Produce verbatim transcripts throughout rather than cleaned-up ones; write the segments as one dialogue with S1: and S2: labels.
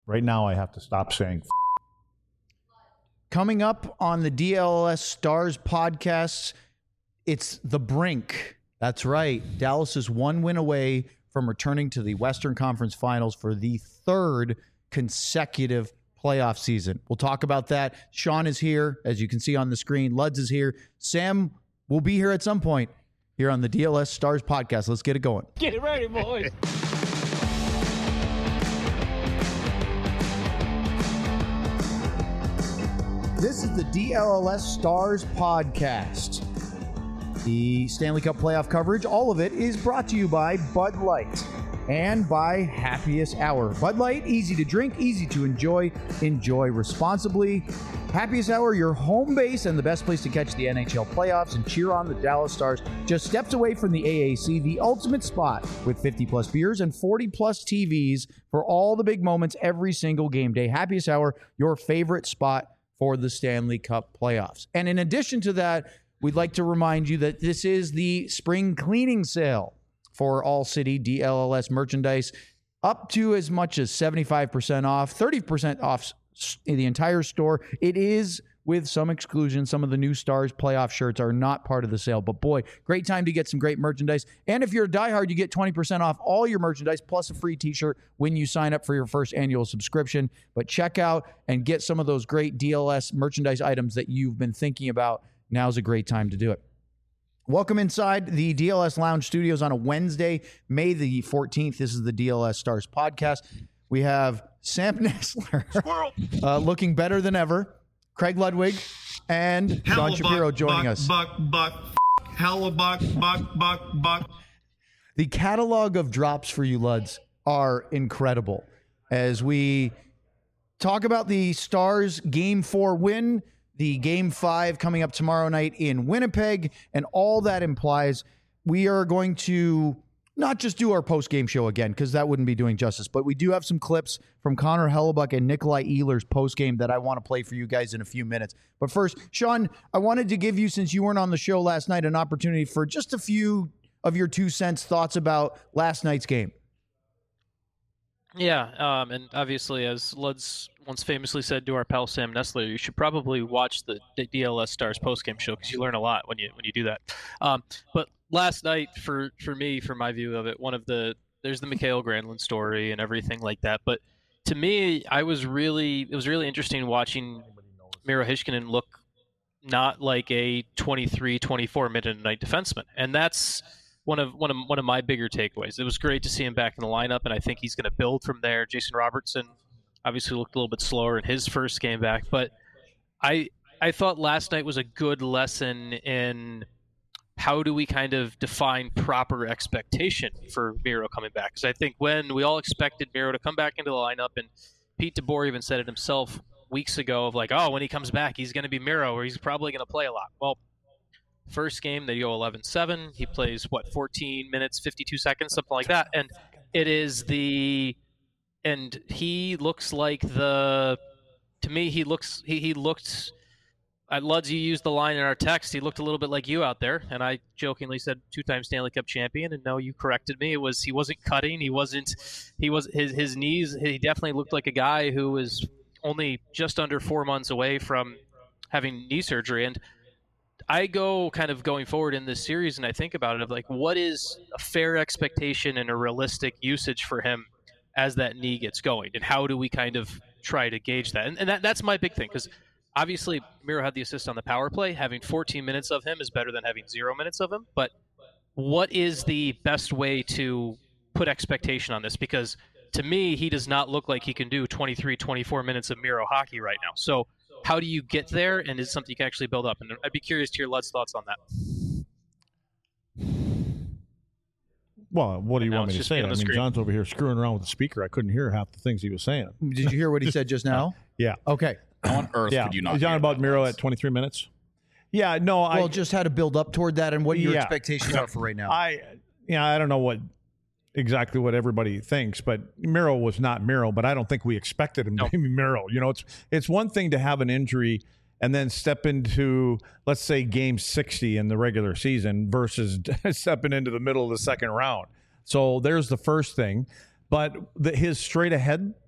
S1: Right now, I have to stop saying. F-
S2: Coming up on the D L S Stars podcasts, it's the brink. That's right. Dallas is one win away from returning to the Western Conference Finals for the third consecutive playoff season. We'll talk about that. Sean is here, as you can see on the screen. Luds is here. Sam will be here at some point here on the D L S Stars podcast. Let's get it going.
S3: Get it ready, boys.
S2: This is the D L L S Stars podcast. The Stanley Cup playoff coverage, all of it, is brought to you by Bud Light and by Happiest Hour. Bud Light, easy to drink, easy to enjoy. Enjoy responsibly. Happiest Hour, your home base and the best place to catch the N H L playoffs and cheer on the Dallas Stars. Just steps away from the A A C, the ultimate spot with fifty plus beers and forty plus T Vs for all the big moments every single game day. Happiest Hour, your favorite spot for the Stanley Cup playoffs. And in addition to that, we'd like to remind you that this is the spring cleaning sale for All City D L L S merchandise, up to as much as seventy-five percent off, thirty percent off the entire store. It is with some exclusions. Some of the new Stars playoff shirts are not part of the sale, but boy, great time to get some great merchandise. And if you're a diehard, you get twenty percent off all your merchandise plus a free t-shirt when you sign up for your first annual subscription. But check out and get some of those great D L S merchandise items that you've been thinking about. Now's a great time to do it. Welcome inside the D L S Lounge Studios on a Wednesday, May the fourteenth. This is the D L S Stars podcast. We have Sam Nestler uh, looking better than ever, Craig Ludwig, and Sean Shapiro joining
S4: buck,
S2: us.
S4: Buck, buck, hella buck, buck, buck, buck.
S2: The catalog of drops for you, Luds, are incredible. As we talk about the Stars Game four win, the Game five coming up tomorrow night in Winnipeg, and all that implies, we are going to not just do our post-game show again, because that wouldn't be doing justice, but we do have some clips from Connor Hellebuyck and Nikolai Ehlers post-game that I want to play for you guys in a few minutes. But first, Sean, I wanted to give you, since you weren't on the show last night, an opportunity for just a few of your two cents thoughts about last night's game.
S3: Yeah, um, and obviously, as Luds once famously said to our pal Sam Nestler, you should probably watch the D L S Stars postgame show because you learn a lot when you when you do that. Um, but last night, for, for me, from my view of it, one of the there's the Mikael Granlund story and everything like that. But to me, I was really it was really interesting watching Miro Heiskanen look not like a twenty-three, twenty-four minute a night defenseman, and that's one of one of one of my bigger takeaways. It was great to see him back in the lineup, and I think he's going to build from there. Jason Robertson obviously looked a little bit slower in his first game back, but I I thought last night was a good lesson in how do we kind of define proper expectation for Miro coming back. Because I think when we all expected Miro to come back into the lineup, and Pete DeBoer even said it himself weeks ago of like, oh, when he comes back, he's going to be Miro, or he's probably going to play a lot. Well, first game, they go eleven seven. He plays, what, fourteen minutes, fifty-two seconds, something like that. And it is the – and he looks like the – to me, he looks – he he looked – at Luds, you used the line in our text, he looked a little bit like you out there. And I jokingly said two-time Stanley Cup champion, and no, you corrected me. It was he wasn't cutting. He wasn't – he was his, his knees – he definitely looked like a guy who was only just under four months away from having knee surgery. And – I go kind of going forward in this series, and I think about it of like, what is a fair expectation and a realistic usage for him as that knee gets going, and how do we kind of try to gauge that? And, and that, that's my big thing, because obviously Miro had the assist on the power play. Having fourteen minutes of him is better than having zero minutes of him. But what is the best way to put expectation on this? Because to me, he does not look like he can do twenty-three, twenty-four minutes of Miro hockey right now. So how do you get there, and is it something you can actually build up? And I'd be curious to hear Lud's thoughts on that.
S1: Well, what do you
S3: And now
S1: want me
S3: it's
S1: to
S3: just
S1: say?
S3: me
S1: I
S3: on the
S1: mean,
S3: screen.
S1: John's over here screwing around with the speaker. I couldn't hear half the things he was saying.
S2: Did you hear what he said just now?
S1: Yeah.
S2: Okay.
S5: How on earth
S1: Yeah.
S5: could you not
S1: John,
S5: hear
S1: about
S5: that
S1: Miro
S5: once?
S1: at twenty-three minutes? Yeah, no, I...
S2: Well, just how to build up toward that and what your
S1: Yeah.
S2: expectations are for right now.
S1: I, yeah, I don't know what exactly what everybody thinks, but Miro was not Miro, but I don't think we expected him
S3: No.
S1: to be Miro. You know, it's it's one thing to have an injury and then step into, let's say, game sixty in the regular season versus stepping into the middle of the second round. So there's the first thing. But the, his straight ahead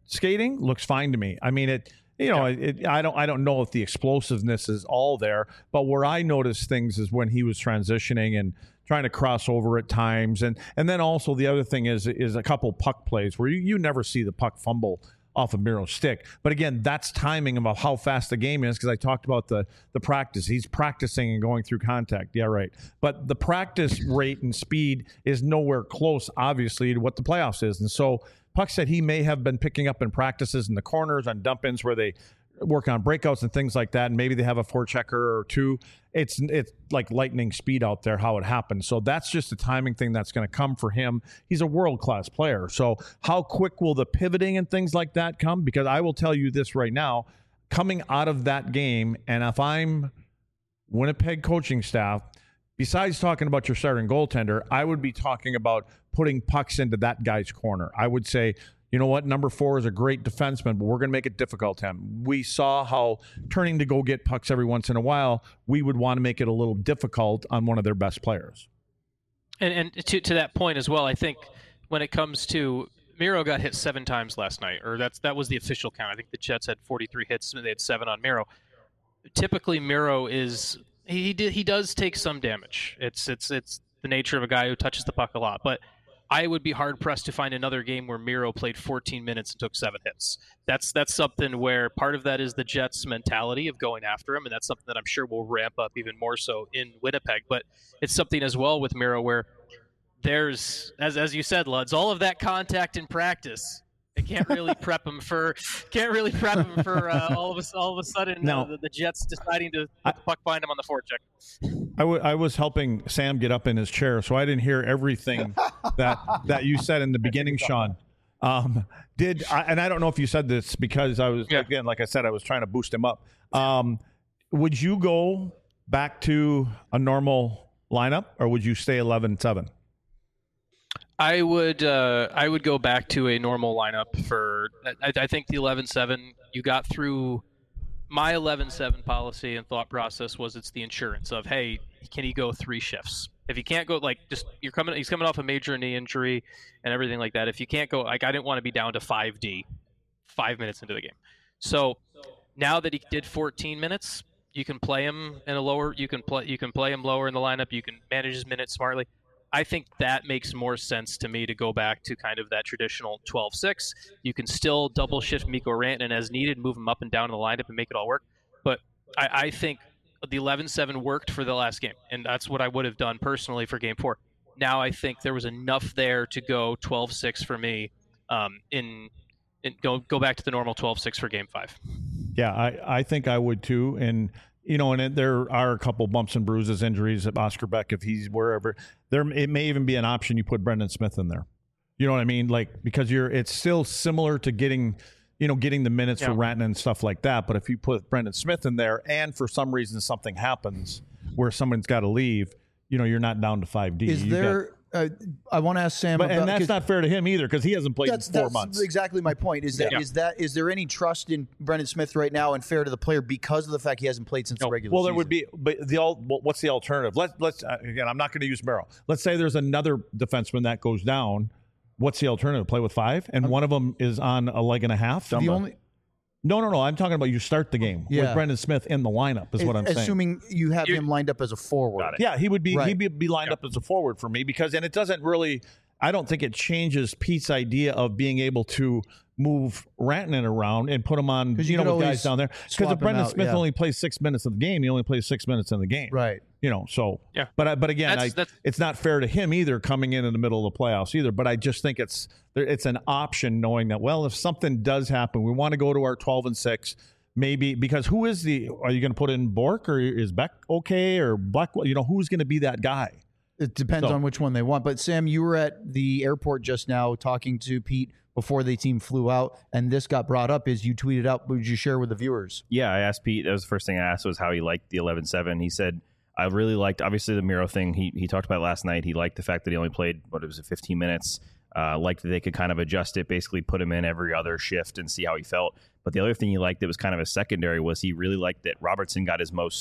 S1: skating looks fine to me. I mean, it. You know, yeah. it, I don't. I don't know if the explosiveness is all there, but where I noticed things is when he was transitioning and trying to cross over at times, and and then also the other thing is is a couple puck plays where you, you never see the puck fumble off of Miro's stick. But again, that's timing about how fast the game is, because I talked about the the practice. He's practicing and going through contact. Yeah, right. But the practice rate and speed is nowhere close, obviously, to what the playoffs is, and so. Puck said he may have been picking up in practices in the corners on dump-ins where they work on breakouts and things like that, and maybe they have a forechecker or two. It's it's like lightning speed out there how it happens. So that's just a timing thing that's going to come for him. He's a world-class player. So how quick will the pivoting and things like that come? Because I will tell you this right now, coming out of that game, and if I'm Winnipeg coaching staff, besides talking about your starting goaltender, I would be talking about putting pucks into that guy's corner. I would say, you know what, number four is a great defenseman, but we're going to make it difficult to him. We saw how turning to go get pucks every once in a while, we would want to make it a little difficult on one of their best players.
S3: And, and to to that point as well, I think when it comes to Miro got hit seven times last night, or that's that was the official count. I think the Jets had forty-three hits, and they had seven on Miro. Typically, Miro is he did he does take some damage. It's it's it's the nature of a guy who touches the puck a lot, but I would be hard-pressed to find another game where Miro played fourteen minutes and took seven hits. That's that's something where part of that is the Jets' mentality of going after him, and that's something that I'm sure will ramp up even more so in Winnipeg. But it's something as well with Miro where there's, as as you said, Luds, all of that contact in practice. It can't really prep him for can't really prep him for uh, all of a all of a sudden
S1: no.
S3: uh, the, the Jets deciding to put the puck behind him on the forecheck.
S1: I, w- I was helping Sam get up in his chair, so I didn't hear everything that that you said in the beginning, Sean. Um, did I, and I don't know if you said this because I was yeah. again, like I said, I was trying to boost him up. Um, would you go back to a normal lineup, or would you stay eleven seven?
S3: I would uh, I would go back to a normal lineup for I, I think the eleven seven you got through. My eleven seven policy and thought process was it's the insurance of, hey, can he go three shifts? If he can't go, like, just you're coming he's coming off a major knee injury and everything like that. If you can't go, like, I didn't want to be down to five D five minutes into the game. So now that he did fourteen minutes, you can play him in a lower you can play you can play him lower in the lineup, you can manage his minutes smartly. I think that makes more sense to me to go back to kind of that traditional twelve six. You can still double shift Mikko Rantanen as needed, move him up and down in the lineup and make it all work. But I, I think the eleven seven worked for the last game, and that's what I would have done personally for game four. Now I think there was enough there to go twelve six for me um, in, in go go back to the normal twelve six for game five.
S1: Yeah, I, I think I would too. And you know, and it, there are a couple bumps and bruises, injuries at Oscar Beck if he's wherever. There, it may even be an option you put Brendan Smith in there. You know what I mean? Like, because you're, it's still similar to getting, you know, getting the minutes yeah. for Rantanen and stuff like that. But if you put Brendan Smith in there, and for some reason something happens where someone's got to leave, you know, you're not down to five D.
S2: Is
S1: you
S2: there?
S1: Got,
S2: Uh, I want to ask Sam,
S1: but,
S2: about,
S1: and that's not fair to him either because he hasn't played
S2: that's,
S1: in four
S2: that's
S1: months.
S2: Exactly my point. Is that
S3: yeah.
S2: is that is there any trust in Brendan Smith right now and fair to the player because of the fact he hasn't played since
S3: no.
S2: the regular
S1: well,
S2: season?
S1: there would be, but the what's the alternative? Let's let's uh, again, I'm not going to use Merrill. Let's say there's another defenseman that goes down. What's the alternative? Play with five, and um, one of them is on a leg and a half.
S2: The only.
S1: No, no, no. I'm talking about you start the game
S2: yeah.
S1: with Brendan Smith in the lineup is
S2: it,
S1: what I'm
S2: assuming
S1: saying.
S2: Assuming you have You're, him lined up as a forward.
S1: Yeah, he would be
S2: right.
S1: he'd be, be lined
S3: yeah.
S1: up as a forward for me because, and it doesn't really, I don't think it changes Pete's idea of being able to move Rantanen around and put him on, you, you know, with guys down there. Because if Brendan out, Smith yeah. only plays six minutes of the game, he only plays six minutes in the game.
S2: Right.
S1: You know, so,
S3: yeah.
S1: but but again,
S3: that's,
S1: I,
S3: that's,
S1: it's not fair to him either coming in in the middle of the playoffs either. But I just think it's it's an option knowing that, well, if something does happen, we want to go to our twelve and six. Maybe because who is the? Are you going to put in Bork or is Beck okay or Blackwell? You know, who's going to be that guy?
S2: It depends
S1: so.
S2: on which one they want. But Sam, you were at the airport just now talking to Pete before the team flew out, and this got brought up. Is you tweeted out? Would you share with the viewers?
S5: Yeah, I asked Pete. That was the first thing I asked was how he liked the eleven seven. He said I really liked obviously the Miro thing. He he talked about it last night. He liked the fact that he only played what it was fifteen minutes. Uh, liked that they could kind of adjust it, basically put him in every other shift and see how he felt. But the other thing he liked that was kind of a secondary was he really liked that Robertson got his most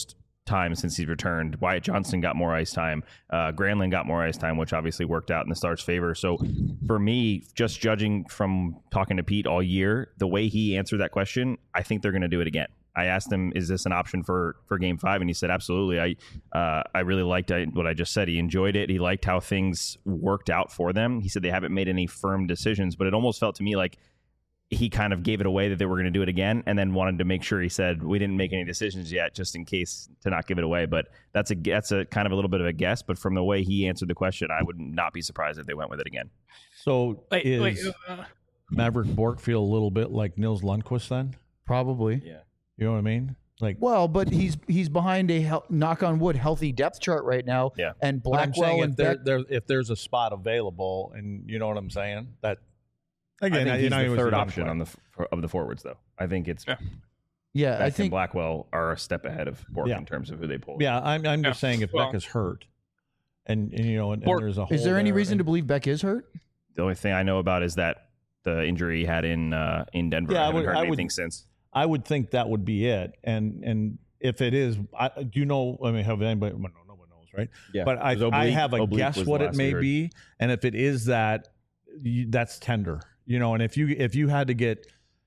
S5: time since he's returned. Wyatt Johnston got more ice time. Uh, Granlund got more ice time, which obviously worked out in the Stars' favor. So for me, just judging from talking to Pete all year, the way he answered that question, I think they're going to do it again. I asked him, is this an option for, for game five? And he said, absolutely. I uh, I really liked what I just said. He enjoyed it. He liked how things worked out for them. He said they haven't made any firm decisions, but it almost felt to me like he kind of gave it away that they were going to do it again, and then wanted to make sure he said we didn't make any decisions yet, just in case to not give it away. But that's a that's a kind of a little bit of a guess. But from the way he answered the question, I would not be surprised if they went with it again.
S1: So
S3: wait,
S1: is
S3: wait, uh,
S1: Maverick Bourque feel a little bit like Nils Lundqvist then?
S2: Probably.
S5: Yeah,
S1: You know what I mean? Like,
S2: Well, but he's he's behind a hel- knock on wood healthy depth chart right now.
S5: Yeah.
S2: And
S1: but I'm saying
S2: Blackwell
S1: if
S2: and
S1: there,
S2: Beck.
S1: there, if there's a spot available, and you know what I'm saying, that
S5: again, I think
S1: you
S5: he's
S1: know, he
S5: the
S1: was
S5: third
S1: young
S5: option
S1: player.
S5: on the f- of the forwards, though. I think it's
S3: Yeah.
S2: Yeah,
S5: Beck
S2: I
S5: and
S2: think
S5: Blackwell are a step ahead of Bourque
S1: Yeah.
S5: in terms of who they pull.
S1: Yeah, I'm I'm just
S3: Yeah.
S1: saying if
S3: Well-
S1: Beck is hurt, and, and you know, and, and
S3: Bourque-
S1: there's a hole
S2: is there any
S1: there,
S2: reason
S1: and-
S2: to believe Beck is hurt?
S5: The only thing I know about is that the injury he had in uh, in Denver.
S1: Yeah,
S5: I
S1: I
S5: haven't
S1: would-
S5: heard
S1: I would-
S5: anything since.
S1: I would think that would be it, and and if it is, I, do you know? I mean, have anybody? Well, no, no one knows, right?
S5: Yeah,
S1: But I,
S5: 'cause
S1: I
S5: oblique-
S1: have a
S5: oblique
S1: guess
S5: was the
S1: what it
S5: last we
S1: may
S5: heard.
S1: be, and if it is that, you, that's tender, you know. And if you if you had to get,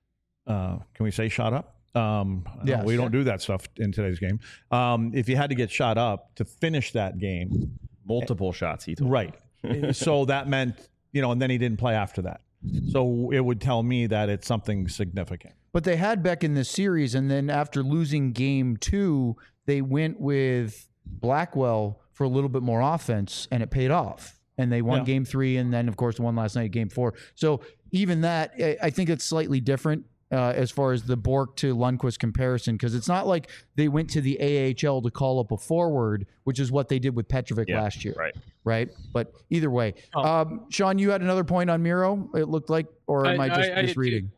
S1: uh, can we say shot up? Um,
S2: Yes.
S1: we don't do that stuff in today's game. Um, if you had to get shot up to finish that game,
S5: Multiple shots, he told me.
S1: right? So that meant, you know, and then he didn't play after that. So it would tell me that it's something significant.
S2: But they had Beck in this series, and then after losing game two, they went with Blackwell for a little bit more offense, and it paid off. And they won
S1: Yeah.
S2: game three, and then, of course, won last night, game four. So even that, I- I think it's slightly different uh, as far as the Bourque to Lundqvist comparison, because it's not like they went to the A H L to call up a forward, which is what they did with Petrovic
S5: Yeah,
S2: last year.
S5: right.
S2: Right? But either way.
S3: Oh.
S2: Um, Sean, you had another point on Miro, it looked like, or am I,
S3: I-
S2: just
S3: I- I did
S2: misreading?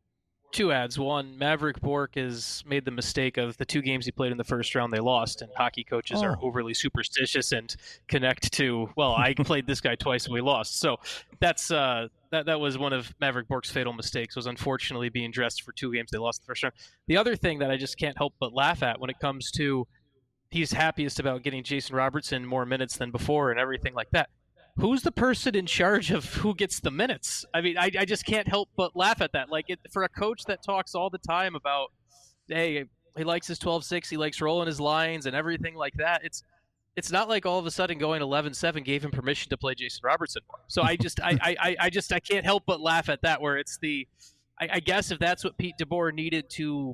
S3: two ads. One, Maverick Bourque has made the mistake of the two games he played in the first round they lost, and hockey coaches are
S2: Oh.
S3: overly superstitious and connect to, well, I played this guy twice and we lost. So that's uh, that that was one of Maverick Bourque's fatal mistakes, was unfortunately being dressed for two games they lost the first round. The other thing that I just can't help but laugh at when it comes to he's happiest about getting Jason Robertson more minutes than before and everything like that. Who's the person in charge of who gets the minutes? I mean, I, I just can't help but laugh at that. Like, it, for a coach that talks all the time about, hey, he likes his twelve six, he likes rolling his lines and everything like that, it's it's not like all of a sudden going eleven seven gave him permission to play Jason Robertson more. So I just, I, I, I just, I can't help but laugh at that, where it's the, I, I guess if that's what Pete DeBoer needed to,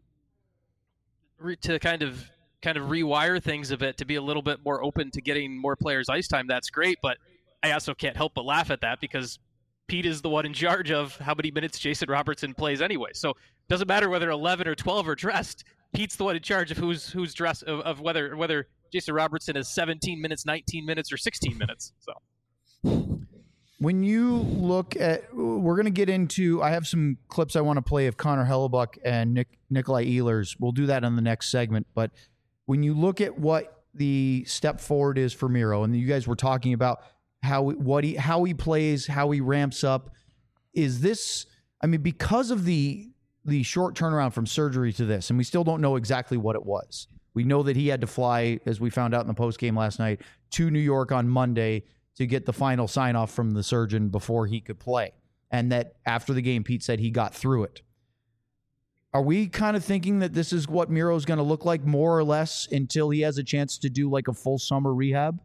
S3: re, to kind of, kind of rewire things a bit to be a little bit more open to getting more players ice time, that's great. But I also can't help but laugh at that because Pete is the one in charge of how many minutes Jason Robertson plays anyway. So it doesn't matter whether eleven or twelve are dressed. Pete's the one in charge of who's who's dressed, of, of whether whether Jason Robertson is seventeen minutes, nineteen minutes, or sixteen minutes. So
S2: When you look at, we're going to get into, I have some clips I want to play of Connor Hellebuck and Nick, Nikolai Ehlers. We'll do that on the next segment. But when you look at what the step forward is for Miro, and you guys were talking about how what he how he plays, how he ramps up, is this, I mean, because of the the short turnaround from surgery to this, and we still don't know exactly what it was. We know that he had to fly, as we found out in the post game last night, to New York on Monday to get the final sign off from the surgeon before he could play. And that after the game, Pete said he got through it. Are we kind of thinking that this is what Miro's going to look like more or less until he has a chance to do like a full summer rehab?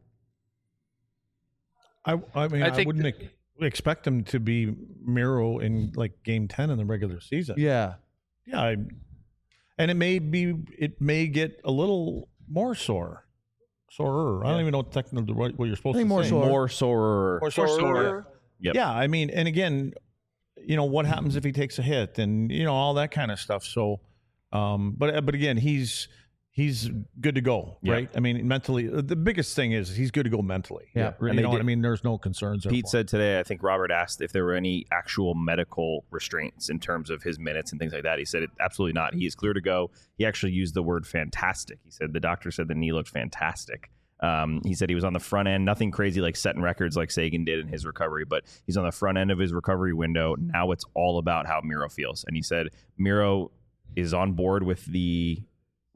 S1: I, I mean,
S3: I
S1: I,
S3: think
S1: wouldn't ex- expect him to be Miro in like game ten in the regular season.
S2: Yeah.
S1: Yeah. I, and it may be, it may get a little more sore. Sorer. I don't even know technically what, what you're supposed
S2: I think
S1: to
S2: more
S1: say.
S2: sore.
S5: More sorer.
S1: More sorer.
S5: Yep.
S1: Yeah. I mean, and again, you know, what happens if he takes a hit and, you know, all that kind of stuff. So, um, but, but again, he's, he's good to go,
S5: Yeah.
S1: right? I mean, mentally, the biggest thing is he's good to go mentally.
S2: Yeah.
S1: You
S5: And they
S1: know what
S5: did-
S1: I mean? There's no concerns there.
S5: Pete
S1: for him.
S5: said today, I think Robert asked if there were any actual medical restraints in terms of his minutes and things like that. He said, it, absolutely not. He is clear to go. He actually used the word fantastic. He said the doctor said the knee looked fantastic. Um, he said he was on the front end, nothing crazy like setting records like Sagan did in his recovery, but he's on the front end of his recovery window. Now it's all about how Miro feels. And he said Miro is on board with the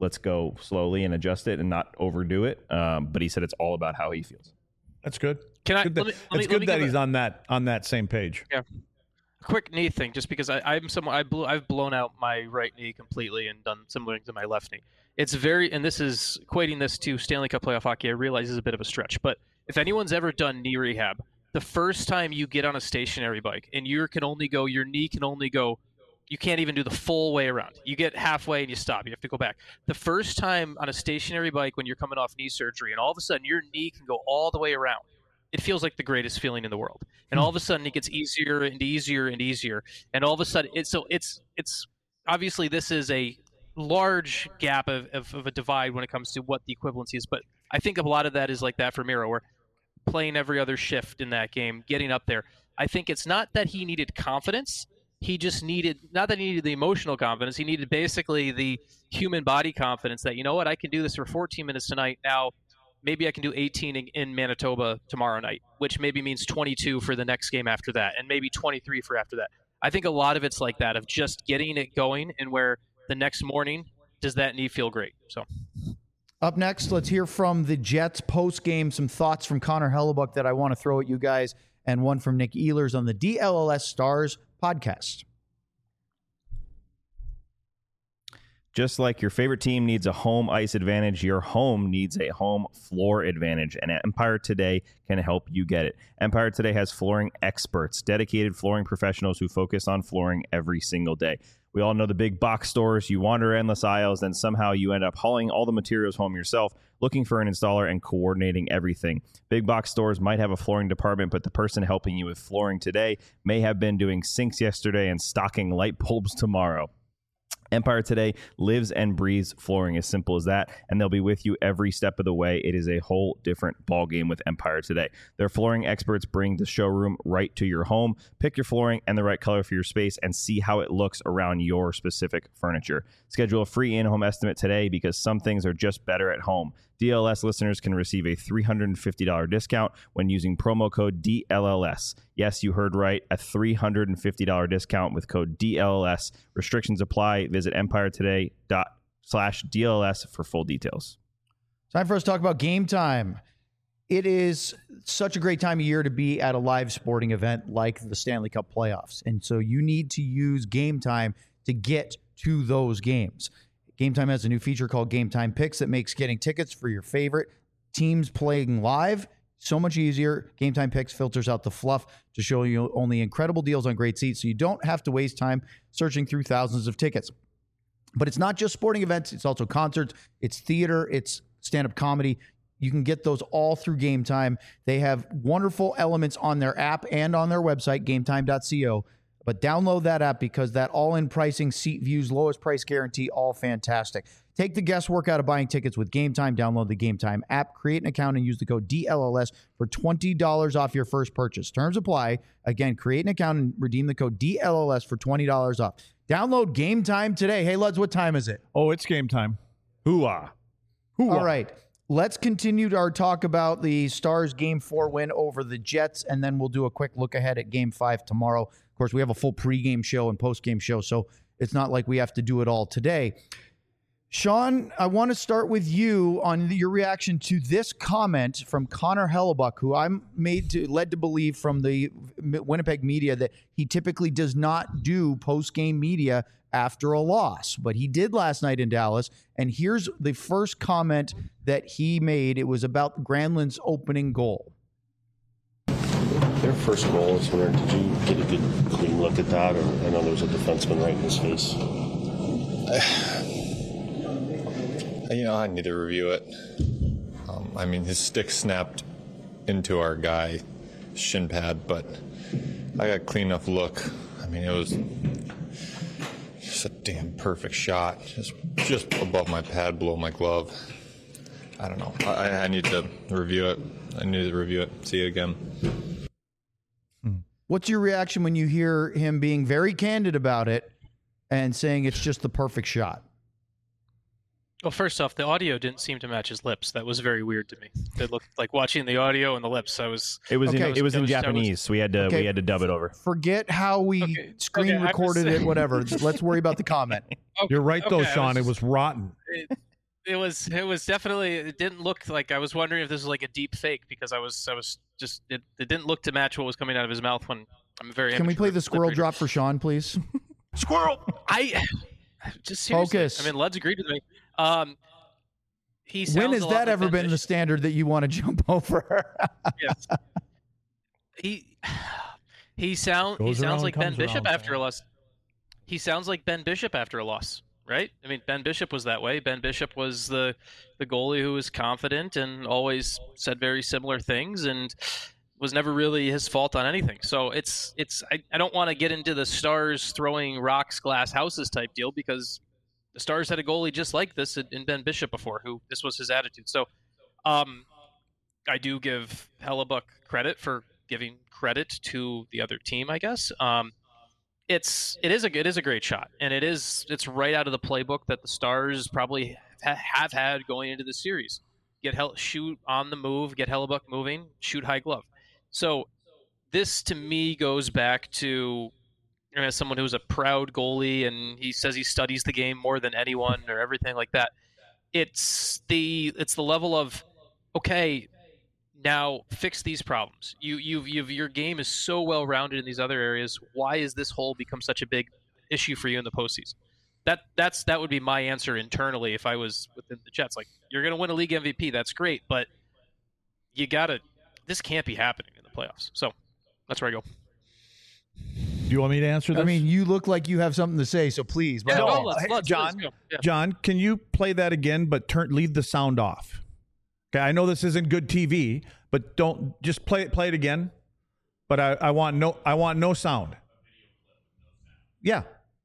S5: let's go slowly and adjust it and not overdo it. Um, but he said it's all about how he feels.
S1: That's good.
S3: Can I?
S1: Good that,
S3: let me, let
S1: it's
S3: me,
S1: good that he's a, on that on that same page.
S3: Yeah. A quick knee thing, just because I, I'm someone I blew, I've blown out my right knee completely and done similar things to my left knee. It's very, and this is equating this to Stanley Cup playoff hockey. I realize is a bit of a stretch, but if anyone's ever done knee rehab, the first time you get on a stationary bike and you can only go, your knee can only go, you can't even do the full way around. You get halfway and you stop. You have to go back. The first time on a stationary bike when you're coming off knee surgery and all of a sudden your knee can go all the way around, it feels like the greatest feeling in the world. And all of a sudden it gets easier and easier and easier. And all of a sudden it's, so it's, it's obviously this is a large gap of, of, of a divide when it comes to what the equivalency is. But I think a lot of that is like that for Miro, where playing every other shift in that game, getting up there. I think it's not that he needed confidence. He just needed, not that he needed the emotional confidence. He needed basically the human body confidence that, you know what, I can do this for fourteen minutes tonight. Now, maybe I can do eighteen in, in Manitoba tomorrow night, which maybe means twenty-two for the next game after that, and maybe twenty-three for after that. I think a lot of it's like that, of just getting it going, and where the next morning, does that knee feel great? So,
S2: up next, let's hear from the Jets post-game, some thoughts from Connor Hellebuyck that I want to throw at you guys, and one from Nick Ehlers on the D L L S Stars podcast.
S5: Just like your favorite team needs a home ice advantage, your home needs a home floor advantage, and Empire Today can help you get it. Empire Today has flooring experts, dedicated flooring professionals who focus on flooring every single day. We all know the big box stores. You wander endless aisles, and somehow you end up hauling all the materials home yourself, looking for an installer and coordinating everything. Big box stores might have a flooring department, but the person helping you with flooring today may have been doing sinks yesterday and stocking light bulbs tomorrow. Empire Today lives and breathes flooring, as simple as that, and they'll be with you every step of the way. It is a whole different ballgame with Empire Today. Their flooring experts bring the showroom right to your home. Pick your flooring and the right color for your space and see how it looks around your specific furniture. Schedule a free in-home estimate today, because some things are just better at home. D L S listeners can receive a three hundred fifty dollars discount when using promo code D L L S. Yes, you heard right, a three hundred fifty dollars discount with code D L L S. Restrictions apply. Visit empire today dot slash D L L S for full details.
S2: Time for us to talk about Game Time. It is such a great time of year to be at a live sporting event like the Stanley Cup playoffs. And so you need to use Game Time to get to those games. Game Time has a new feature called Game Time Picks that makes getting tickets for your favorite teams playing live so much easier. Game Time Picks filters out the fluff to show you only incredible deals on great seats, so you don't have to waste time searching through thousands of tickets. But it's not just sporting events. It's also concerts. It's theater. It's stand-up comedy. You can get those all through Game Time. They have wonderful elements on their app and on their website, game time dot co. But download that app, because that all-in pricing, seat views, lowest price guarantee, all fantastic. Take the guesswork out of buying tickets with Game Time. Download the Game Time app, create an account, and use the code D L L S for twenty dollars off your first purchase. Terms apply. Again, create an account and redeem the code D L L S for twenty dollars off. Download Game Time today. Hey, Luds, what time is it?
S1: Oh, it's game time.
S5: Hoo-ah.
S1: Hoo-ah.
S2: All right. Let's continue our talk about the Stars Game four win over the Jets, and then we'll do a quick look ahead at Game five tomorrow. Of course, we have a full pregame show and postgame show, so it's not like we have to do it all today. Sean, I want to start with you on your reaction to this comment from Connor Hellebuyck, who I'm made to led to believe from the Winnipeg media that he typically does not do postgame media after a loss, but he did last night in Dallas. And here's the first comment that he made. It was about Granlund's opening goal.
S6: Their first goal is winner. Did you get a good, clean look at that? Or I know there was a defenseman right in his face.
S7: You know, I need to review it. Um, I mean, his stick snapped into our guy shin pad, but I got a clean enough look. I mean, it was just a damn perfect shot, just just above my pad, below my glove. I don't know. I, I need to review it. I need to review it. See it again.
S2: What's your reaction when you hear him being very candid about it and saying it's just the perfect shot?
S3: Well, first off, the audio didn't seem to match his lips. That was very weird to me. It looked like watching the audio and the lips. I was.
S5: It was.
S2: Okay.
S5: In, it was in
S3: was,
S5: Japanese,
S3: was,
S5: so we had to.
S2: Okay.
S5: We had to dub it over.
S2: Forget how we
S3: Okay.
S2: screen
S3: Okay,
S2: recorded
S3: was,
S2: it. Whatever. Let's worry about the comment.
S3: Okay,
S1: You're right, though,
S3: okay,
S1: Sean.
S3: was,
S1: It was rotten.
S3: It, It was it was definitely it didn't look like I was wondering if this was like a deep fake because I was I was just it, it didn't look to match what was coming out of his mouth when I'm very
S2: Can we play the squirrel
S3: liberated.
S2: drop for Sean, please?
S3: Squirrel. I just seriously,
S2: Focus.
S3: I mean, Lud's agreed with me. Um, he sounds
S2: When has
S3: a lot
S2: that
S3: like
S2: ever
S3: Ben
S2: been the
S3: Bishop.
S2: standard that you want to jump over?
S3: Yes. He he sound he
S1: Goes
S3: sounds
S1: around,
S3: like Ben
S1: comes
S3: Bishop
S1: around.
S3: after a loss. He sounds like Ben Bishop after a loss, right? I mean, Ben Bishop was that way. Ben Bishop was the the goalie who was confident and always said very similar things and was never really his fault on anything. So it's it's I, I don't want to get into the Stars throwing rocks, glass houses type deal because the Stars had a goalie just like this in Ben Bishop before, who this was his attitude. So um, I do give Hellebuck credit for giving credit to the other team, I guess. Um, it's it is a it is a great shot, and it is it's right out of the playbook that the Stars probably ha- have had going into the series. Get Hell shoot on the move, get Hellebuck moving, shoot high glove. So this to me goes back to you know, as someone who's a proud goalie and he says he studies the game more than anyone or everything like that. It's the it's the level of okay. Now fix these problems. You, you've, you've, your game is so well rounded in these other areas. Why has this hole become such a big issue for you in the postseason? That that's that would be my answer internally if I was within the Jets. Like you're going to win a league M V P, that's great, but you gotta. This can't be happening in the playoffs. So that's where I go.
S1: Do you want me to answer this?
S2: I mean, you look like you have something to say, so please.
S3: Yeah,
S2: by all
S3: no,
S2: means.
S3: let's,
S1: hey,
S3: let's,
S1: John,
S3: let's go. Yeah.
S1: John, can you play that again, but turn leave the sound off? Okay, I know this isn't good T V, but don't just play it. Play it again. But I, I want no. I want no sound. Yeah.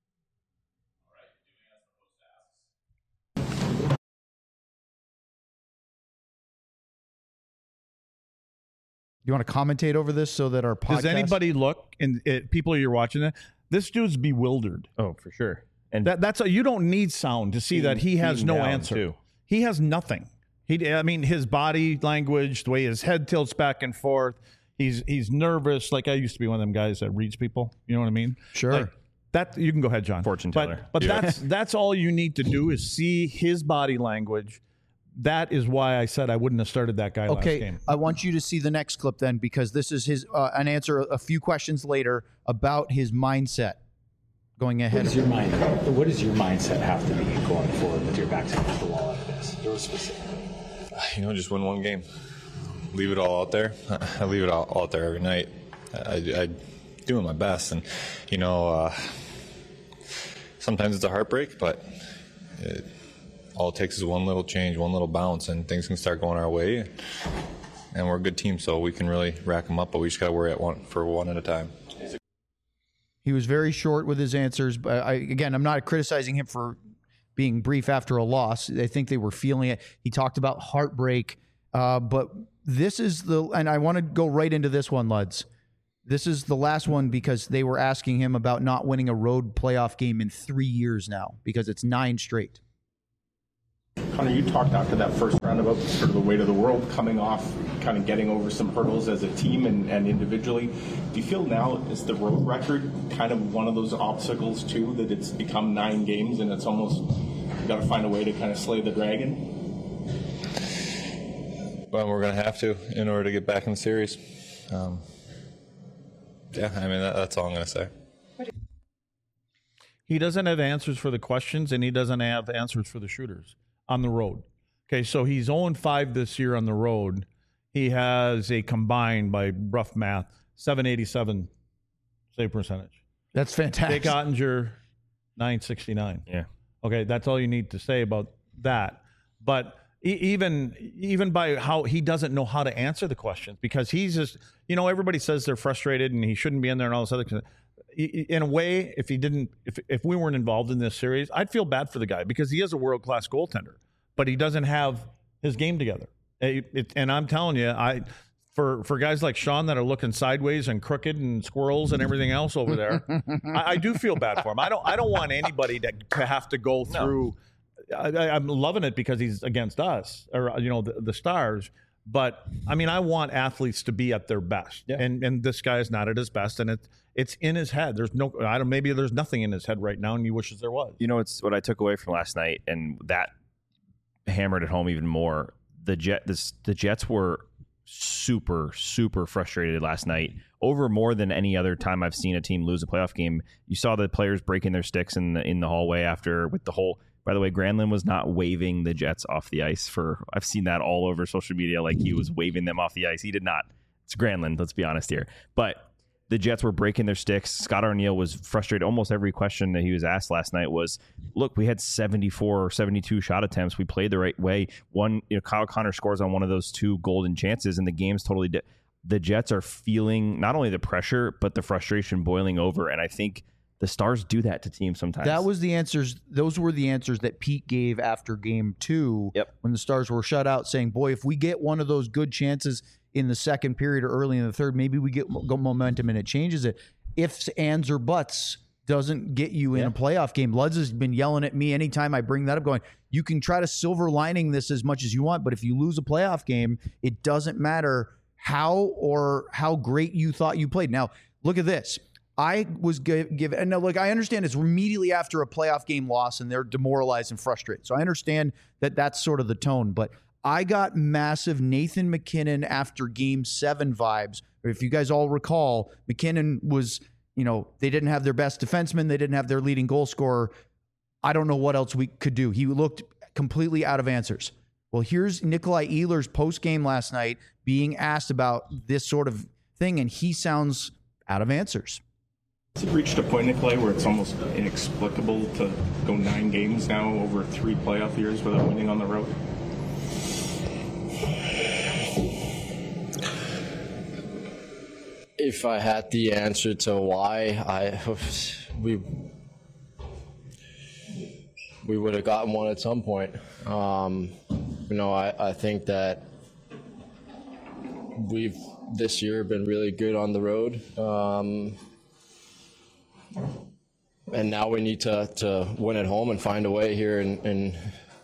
S2: You want to commentate over this so that our podcast...
S1: Does anybody look and it, people you're watching it? This dude's bewildered.
S5: Oh, for sure. And
S1: That that's a, you don't need sound to see that he has
S5: beaten
S1: no
S5: down,
S1: answer.
S5: too.
S1: He has nothing. He, I mean, his body language, the way his head tilts back and forth. He's he's nervous. Like I used to be one of them guys that reads people. You know what I mean?
S2: Sure.
S1: Like, that you can go ahead, John.
S5: Fortune
S1: but,
S5: teller.
S1: But that's that's all you need to do is see his body language. That is why I said I wouldn't have started that guy last
S2: Okay,
S1: game.
S2: I want you to see the next clip then, because this is his uh, an answer a few questions later about his mindset going
S8: What
S2: ahead.
S8: does your mind? What does your mindset have to be going forward with your back against the wall like this? Real specific.
S7: You know, just win one game. Leave it all out there. I leave it all out there every night. I, I doing my best, and you know, uh, sometimes it's a heartbreak, but it, all it takes is one little change, one little bounce, and things can start going our way. And we're a good team, so we can really rack them up, but we just got to worry at one for one at a time.
S2: He was very short with his answers, but I, again, I'm not criticizing him for being brief after a loss. I think they were feeling it. He talked about heartbreak, uh, but this is the, and I want to go right into this one, Luds. This is the last one because they were asking him about not winning a road playoff game in three years now because it's nine straight.
S9: Connor, you talked after that first round about sort of the weight of the world coming off, kind of getting over some hurdles as a team and, and individually. Do you feel now is the road record kind of one of those obstacles too, that it's become nine games and it's almost you got to find a way to kind of slay the dragon?
S7: But we're going to have to in order to get back in the series. Um, yeah, I mean, that, that's all I'm going to say.
S1: He doesn't have answers for the questions, and he doesn't have answers for the shooters on the road. Okay, so he's oh and five this year on the road. He has a combined, by rough math, seven eighty-seven save percentage.
S2: That's fantastic.
S1: Jake Ottinger, nine sixty-nine.
S5: Yeah.
S1: Okay, that's all you need to say about that. But e- even even by how he doesn't know how to answer the questions because he's just, you know, everybody says they're frustrated and he shouldn't be in there and all this other kind of, in a way, if he didn't, if if we weren't involved in this series, I'd feel bad for the guy because he is a world-class goaltender, but he doesn't have his game together. It, it, and I'm telling you, I for for guys like Sean that are looking sideways and crooked and squirrels and everything else over there, I, I do feel bad for him. I don't I don't want anybody to, to have to go through. I, I'm loving it because he's against us or you know the, the Stars. But I mean, I want athletes to be at their best,
S5: Yeah.
S1: and and this guy is not at his best, and it it's in his head. There's no, I don't, maybe there's nothing in his head right now, and he wishes there was.
S5: You know, it's what I took away from last night, and that hammered at home even more. The Jet, this, the Jets were super, super frustrated last night over more than any other time I've seen a team lose a playoff game. You saw the players breaking their sticks in the, in the hallway after with the whole, by the way, Granlund was not waving the Jets off the ice for, I've seen that all over social media. Like he was waving them off the ice. He did not. It's Granlund. Let's be honest here. But the Jets were breaking their sticks. Scott Arniel was frustrated. Almost every question that he was asked last night was, look, we had seventy-four or seventy-two shot attempts. We played the right way. One, you know, Kyle Connor scores on one of those two golden chances, and the game's totally di- the Jets are feeling not only the pressure, but the frustration boiling over. And I think the Stars do that to teams sometimes.
S2: That was the answers. Those were the answers that Pete gave after game two
S5: yep.
S2: when the Stars were shut out, saying, boy, if we get one of those good chances in the second period or early in the third, maybe we get go momentum and it changes it. Ifs, ands, or buts doesn't get you in yeah. a playoff game. Luds has been yelling at me anytime I bring that up, going, you can try to silver lining this as much as you want, but if you lose a playoff game, it doesn't matter how or how great you thought you played. Now, look at this. I was given, and now, look, I understand it's immediately after a playoff game loss and they're demoralized and frustrated. So I understand that that's sort of the tone, but I got massive Nathan MacKinnon after game seven vibes. If you guys all recall, MacKinnon was, you know, they didn't have their best defenseman. They didn't have their leading goal scorer. I don't know what else we could do. He looked completely out of answers. Well, here's Nikolai Ehlers post-game last night being asked about this sort of thing, and he sounds out of answers.
S9: Has it reached a point, Nikolai, where it's almost inexplicable to go nine games now over three playoff years without winning on the road?
S10: If I had the answer to why, I we we would have gotten one at some point. Um, you know, I, I think that we've this year been really good on the road, um, and now we need to, to win at home and find a way here in in,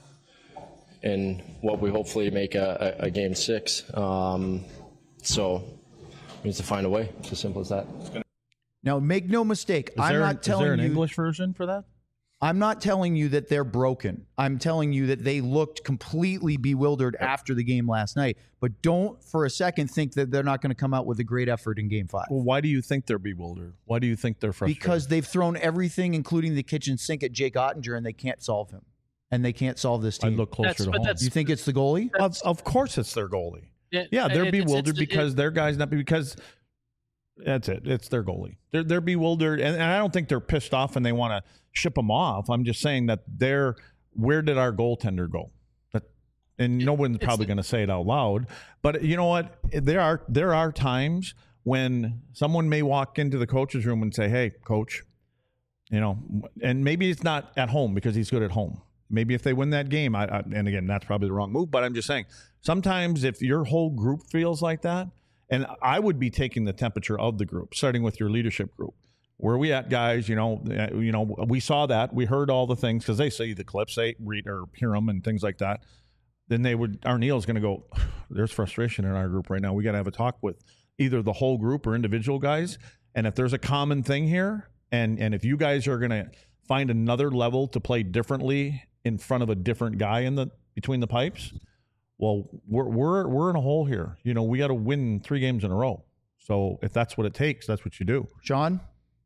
S10: in what we hopefully make a, a, a game six. Um, so. Needs to find a way. It's as simple as that.
S2: Now, make no mistake.
S1: Is
S2: I'm
S1: there,
S2: not telling you.
S1: Is there an English version for that?
S2: I'm not telling you that they're broken. I'm telling you that they looked completely bewildered yep. after the game last night. But don't for a second think that they're not going to come out with a great effort in game five.
S1: Well, why do you think they're bewildered? Why do you think they're frustrated?
S2: Because they've thrown everything, including the kitchen sink, at Jake Ottinger, and they can't solve him. And they can't solve this team.
S1: I look closer
S3: that's,
S1: to home.
S2: You think it's the goalie?
S1: Of, of course it's their goalie.
S3: It,
S1: yeah, they're
S3: it,
S1: bewildered
S3: it's, it's,
S1: because
S3: it,
S1: their guy's not because that's it. It's their goalie. They're they're bewildered, and, and I don't think they're pissed off and they want to ship them off. I'm just saying that they're where did our goaltender go? That, and no one's probably going to say it out loud, but you know what? There are there are times when someone may walk into the coach's room and say, "Hey, coach," you know, and maybe it's not at home because he's good at home. Maybe if they win that game, I, I, and again, that's probably the wrong move, but I'm just saying, sometimes if your whole group feels like that, and I would be taking the temperature of the group, starting with your leadership group. Where are we at, guys? You know, you know, we saw that. We heard all the things because they see the clips, they read or hear them and things like that. Then they would, Arniel's going to go, there's frustration in our group right now. We got to have a talk with either the whole group or individual guys. And if there's a common thing here, and and if you guys are going to find another level to play differently in front of a different guy in the between the pipes, well, we're we're we're in a hole here. You know, we got to win three games in a row. So if that's what it takes, that's what you do.
S2: Sean,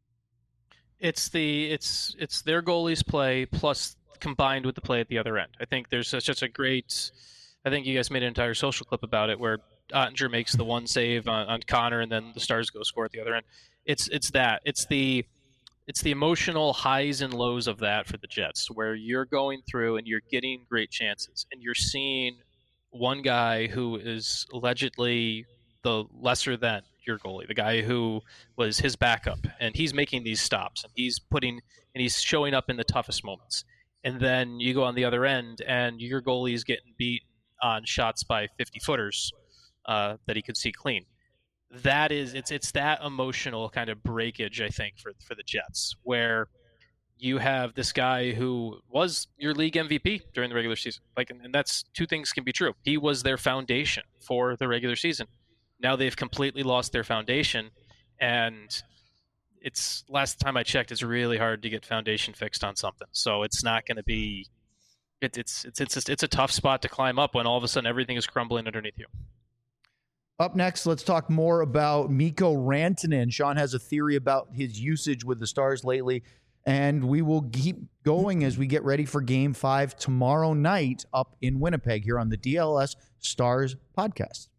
S3: it's the it's it's their goalies play plus combined with the play at the other end. I think there's such, such a great. I think you guys made an entire social clip about it where Ottinger makes the one save on, on Connor, and then the Stars go score at the other end. It's it's that it's the It's the emotional highs and lows of that for the Jets, where you're going through and you're getting great chances, and you're seeing one guy who is allegedly the lesser than your goalie, the guy who was his backup, and he's making these stops, and he's putting and he's showing up in the toughest moments. And then you go on the other end, and your goalie is getting beat on shots by fifty-footers uh, that he could see clean. That is, it's it's that emotional kind of breakage, I think, for for the Jets, where you have this guy who was your league M V P during the regular season. Like, and, and that's two things can be true. He was their foundation for the regular season. Now they've completely lost their foundation, and it's last time I checked, it's really hard to get foundation fixed on something. So it's not going to be it, it's it's it's just, it's a tough spot to climb up when all of a sudden everything is crumbling underneath you.
S2: Up next, let's talk more about Mikko Rantanen. Sean has a theory about his usage with the Stars lately, and we will keep going as we get ready for Game five tomorrow night up in Winnipeg here on the D L S Stars podcast.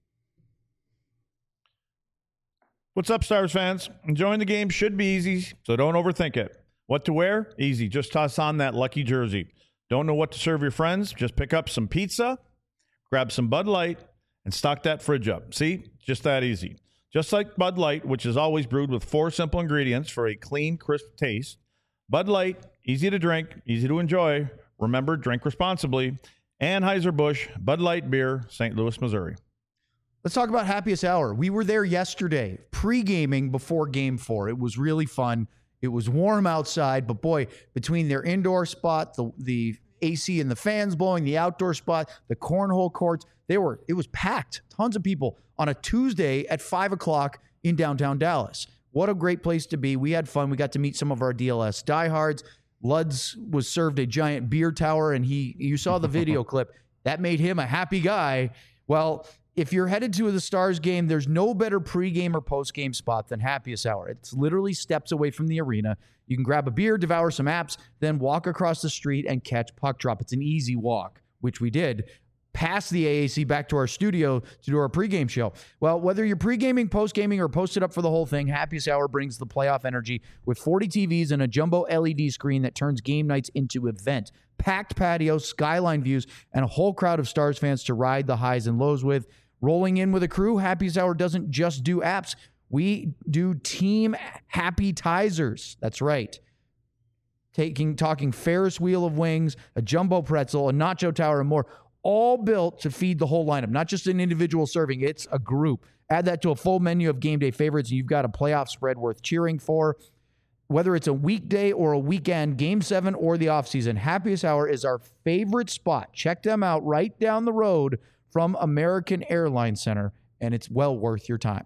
S1: What's up, Stars fans? Enjoying the game should be easy, so don't overthink it. What to wear? Easy. Just toss on that lucky jersey. Don't know what to serve your friends? Just pick up some pizza, grab some Bud Light, and stock that fridge up. See? Just that easy. Just like Bud Light, which is always brewed with four simple ingredients for a clean, crisp taste. Bud Light, easy to drink, easy to enjoy. Remember, drink responsibly. Anheuser-Busch, Bud Light Beer, Saint Louis, Missouri.
S2: Let's talk about Happiest Hour. We were there yesterday, pre-gaming before Game four. It was really fun. It was warm outside, but boy, between their indoor spot, the the A C and the fans blowing, the outdoor spot, the cornhole courts, they were it was packed. Tons of people on a Tuesday at five o'clock in downtown Dallas. What a great place to be. We had fun. We got to meet some of our D L S diehards. Luds was served a giant beer tower, and he you saw the video clip. That made him a happy guy. Well, if you're headed to the Stars game, there's no better pregame or postgame spot than Happiest Hour. It's literally steps away from the arena. You can grab a beer, devour some apps, then walk across the street and catch puck drop. It's an easy walk, which we did, past the A A C back to our studio to do our pregame show. Well, whether you're pregaming, postgaming, or posted up for the whole thing, Happiest Hour brings the playoff energy with forty T Vs and a jumbo L E D screen that turns game nights into event. Packed patios, skyline views, and a whole crowd of Stars fans to ride the highs and lows with. Rolling in with a crew, Happiest Hour doesn't just do apps. We do team happy-tizers. That's right. Taking, talking Ferris wheel of wings, a jumbo pretzel, a nacho tower, and more. All built to feed the whole lineup, not just an individual serving. It's a group. Add that to a full menu of game day favorites, and you've got a playoff spread worth cheering for. Whether it's a weekday or a weekend, Game seven or the offseason, Happiest Hour is our favorite spot. Check them out right down the road from American Airlines Center, and it's well worth your time.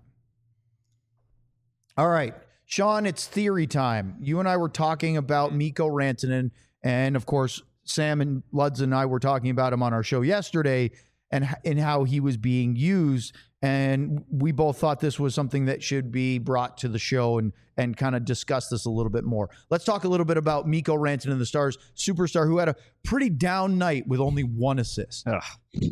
S2: All right, Sean, it's theory time. You and I were talking about Mikko Rantanen, and of course, Sam and Luds and I were talking about him on our show yesterday and, and how he was being used, and we both thought this was something that should be brought to the show and, and kind of discuss this a little bit more. Let's talk a little bit about Mikko Rantanen, the Stars superstar, who had a pretty down night with only one assist.
S5: Ugh.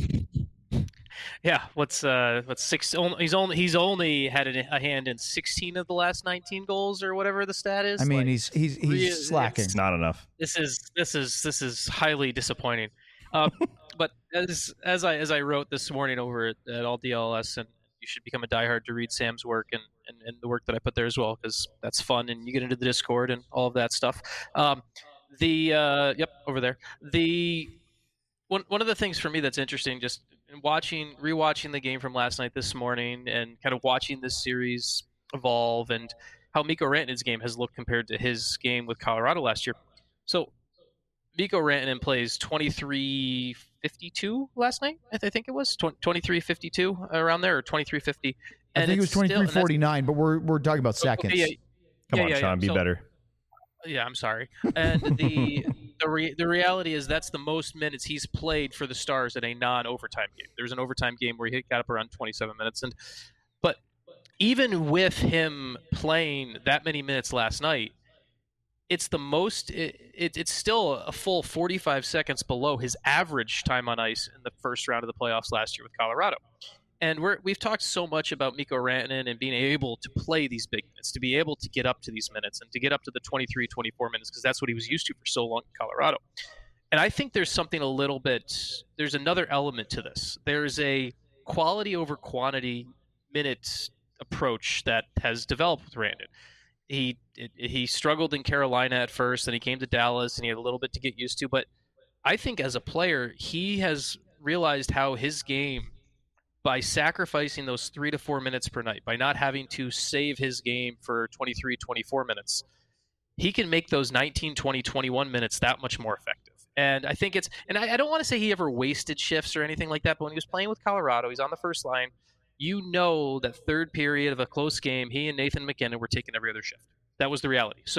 S3: Yeah, what's uh, what's six? He's only he's only had a hand in sixteen of the last nineteen goals, or whatever the stat is.
S2: I mean,
S3: like,
S2: he's he's he's
S3: really,
S2: slacking.
S5: It's not enough.
S3: This is this is this is highly disappointing. Uh, but as as I as I wrote this morning over at, at All D L S, and you should become a diehard to read Sam's work and, and, and the work that I put there as well, because that's fun, and you get into the Discord and all of that stuff. Um, the uh, yep, over there. The one one of the things for me that's interesting, just watching, rewatching the game from last night this morning, and kind of watching this series evolve, and how Mikko Rantanen's game has looked compared to his game with Colorado last year. So Mikko Rantanen plays twenty-three fifty-two last night. I think it was twenty-three fifty-two around there, or twenty-three fifty.
S2: I think it was twenty-three forty-nine, but we're we're talking about seconds.
S3: Okay, yeah,
S5: Come
S3: yeah,
S5: on,
S3: yeah,
S5: Sean,
S3: yeah.
S5: be
S3: So,
S5: better.
S3: Yeah, I'm sorry. And the the, re, the reality is that's the most minutes he's played for the Stars in a non-overtime game. There was an overtime game where he got up around twenty-seven minutes, and but even with him playing that many minutes last night, it's the most. It, it, it's still a full forty-five seconds below his average time on ice in the first round of the playoffs last year with Colorado. And we're, we've talked so much about Mikko Rantanen and being able to play these big minutes, to be able to get up to these minutes and to get up to the twenty-three, twenty-four minutes, because that's what he was used to for so long in Colorado. And I think there's something a little bit, there's another element to this. There's a quality over quantity minute approach that has developed with Rantanen. He, it, he struggled in Carolina at first, and he came to Dallas, and he had a little bit to get used to. But I think as a player, he has realized how his game, by sacrificing those three to four minutes per night, by not having to save his game for twenty-three, twenty-four minutes, he can make those nineteen, twenty, twenty-one minutes that much more effective. And I think it's, and I, I don't want to say he ever wasted shifts or anything like that, but when he was playing with Colorado, he's on the first line. You know that third period of a close game, he and Nathan McKinnon were taking every other shift. That was the reality. So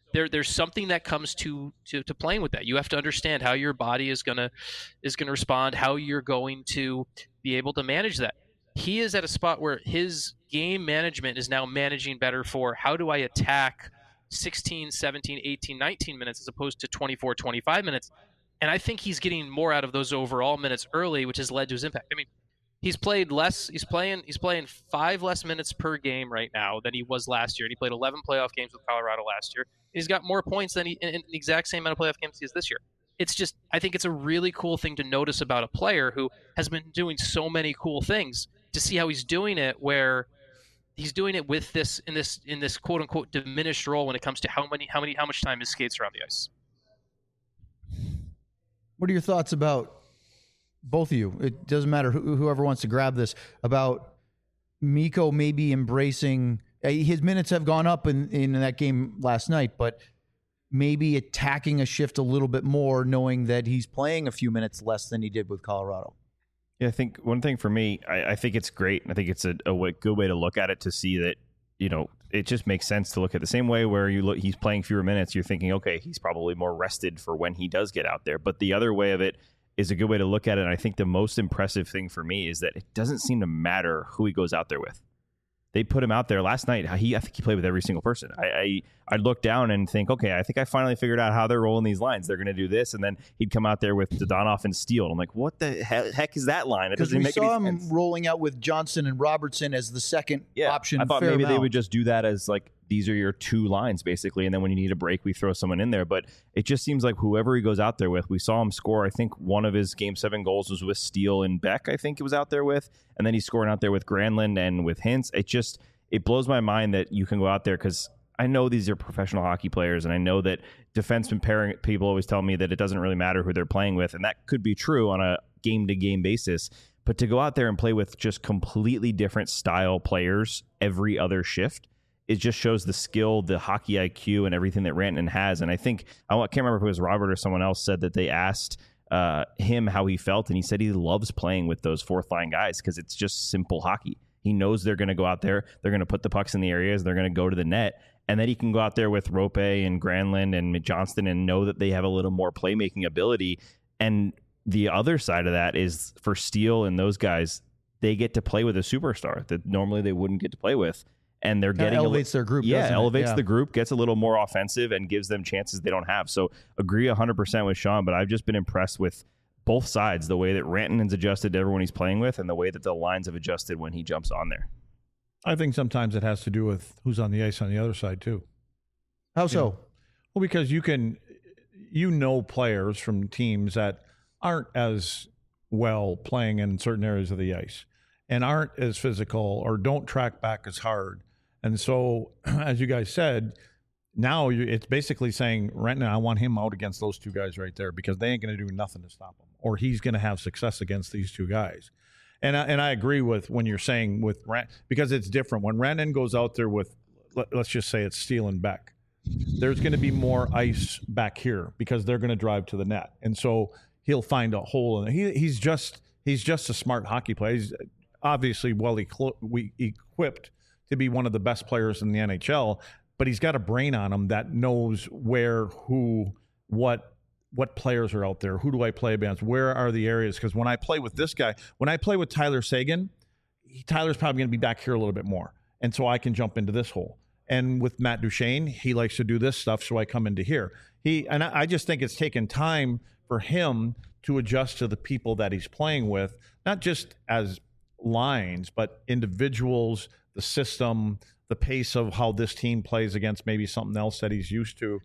S3: there there's something that comes to, to to playing with that. You have to understand how your body is gonna is gonna respond, how you're going to be able to manage that. He is at a spot where his game management is now managing better for how do I attack sixteen, seventeen, eighteen, nineteen minutes as opposed to twenty-four, twenty-five minutes. And I think he's getting more out of those overall minutes early, which has led to his impact. I mean, he's played less. He's playing. He's playing five less minutes per game right now than he was last year. And he played eleven playoff games with Colorado last year. He's got more points than he in, in the exact same amount of playoff games he has this year. It's just, I think it's a really cool thing to notice about a player who has been doing so many cool things, to see how he's doing it, where he's doing it with this in this in this quote unquote diminished role when it comes to how many how many how much time his skates around the ice.
S2: What are your thoughts about both of you? It doesn't matter who, whoever wants to grab this, about Mikko maybe embracing, his minutes have gone up in, in that game last night, but maybe attacking a shift a little bit more, knowing that he's playing a few minutes less than he did with Colorado.
S5: Yeah, I think one thing for me, I, I think it's great. I think it's a, a way, good way to look at it, to see that, you know, it just makes sense to look at the same way where you look, he's playing fewer minutes. You're thinking, okay, he's probably more rested for when he does get out there. But the other way of it is a good way to look at it. And I think the most impressive thing for me is that it doesn't seem to matter who he goes out there with. They put him out there last night. He, I think he played with every single person. I, I, I'd look down and think, okay, I think I finally figured out how they're rolling these lines. They're going to do this, and then he'd come out there with Dadonov and Steele. I'm like, what the he- heck is that line? It doesn't
S2: we
S5: make
S2: saw
S5: any
S2: him
S5: sense.
S2: rolling out with Johnson and Robertson as the second
S5: Yeah,
S2: option.
S5: I thought
S2: fair
S5: maybe they
S2: amount.
S5: would just do that as like, these are your two lines basically, and then when you need a break, we throw someone in there. But it just seems like whoever he goes out there with, we saw him score. I think one of his game seven goals was with Steele and Beck. I think it was out there with, and then he's scoring out there with Granlund and with Hintz. It just it blows my mind that you can go out there, because I know these are professional hockey players, and I know that defenseman pairing people always tell me that it doesn't really matter who they're playing with, and that could be true on a game to game basis. But to go out there and play with just completely different style players every other shift, it just shows the skill, the hockey I Q, and everything that Rantanen has. And I think, I can't remember if it was Robert or someone else said that they asked uh, him how he felt, and he said he loves playing with those fourth line guys because it's just simple hockey. He knows they're going to go out there, they're going to put the pucks in the areas, they're going to go to the net, and then he can go out there with Rope and Granlund and Johnston and know that they have a little more playmaking ability. And the other side of that is for Steele and those guys, they get to play with a superstar that normally they wouldn't get to play with. And they're
S2: Kinda
S5: getting
S2: elevates
S5: a,
S2: their group.
S5: Yeah,
S2: doesn't it?
S5: elevates
S2: Yeah.
S5: the group, gets a little more offensive, and gives them chances they don't have. So agree one hundred percent with Sean, but I've just been impressed with both sides, the way that Rantanen's adjusted to everyone he's playing with, and the way that the lines have adjusted when he jumps on there.
S1: I think sometimes it has to do with who's on the ice on the other side too.
S2: How
S1: You
S2: so?
S1: know, well, because you can, you know, players from teams that aren't as well playing in certain areas of the ice and aren't as physical or don't track back as hard. And so, as you guys said, now you, it's basically saying, Rantanen, I want him out against those two guys right there because they ain't going to do nothing to stop him, or he's going to have success against these two guys. And I, and I agree with when you're saying with Rant, because it's different. When Rantanen goes out there with, let, let's just say it's Steele and Beck, there's going to be more ice back here because they're going to drive to the net. And so he'll find a hole in it. He, he's just he's just a smart hockey player. He's obviously well equipped to be one of the best players in the N H L, but he's got a brain on him that knows where, who, what, what players are out there. Who do I play against? Where are the areas? Because when I play with this guy, when I play with Tyler Seguin, he, Tyler's probably going to be back here a little bit more. And so I can jump into this hole. And with Matt Duchene, he likes to do this stuff, so I come into here. He and I, I just think it's taken time for him to adjust to the people that he's playing with, not just as lines, but individuals, the system, the pace of how this team plays against maybe something else that he's used to.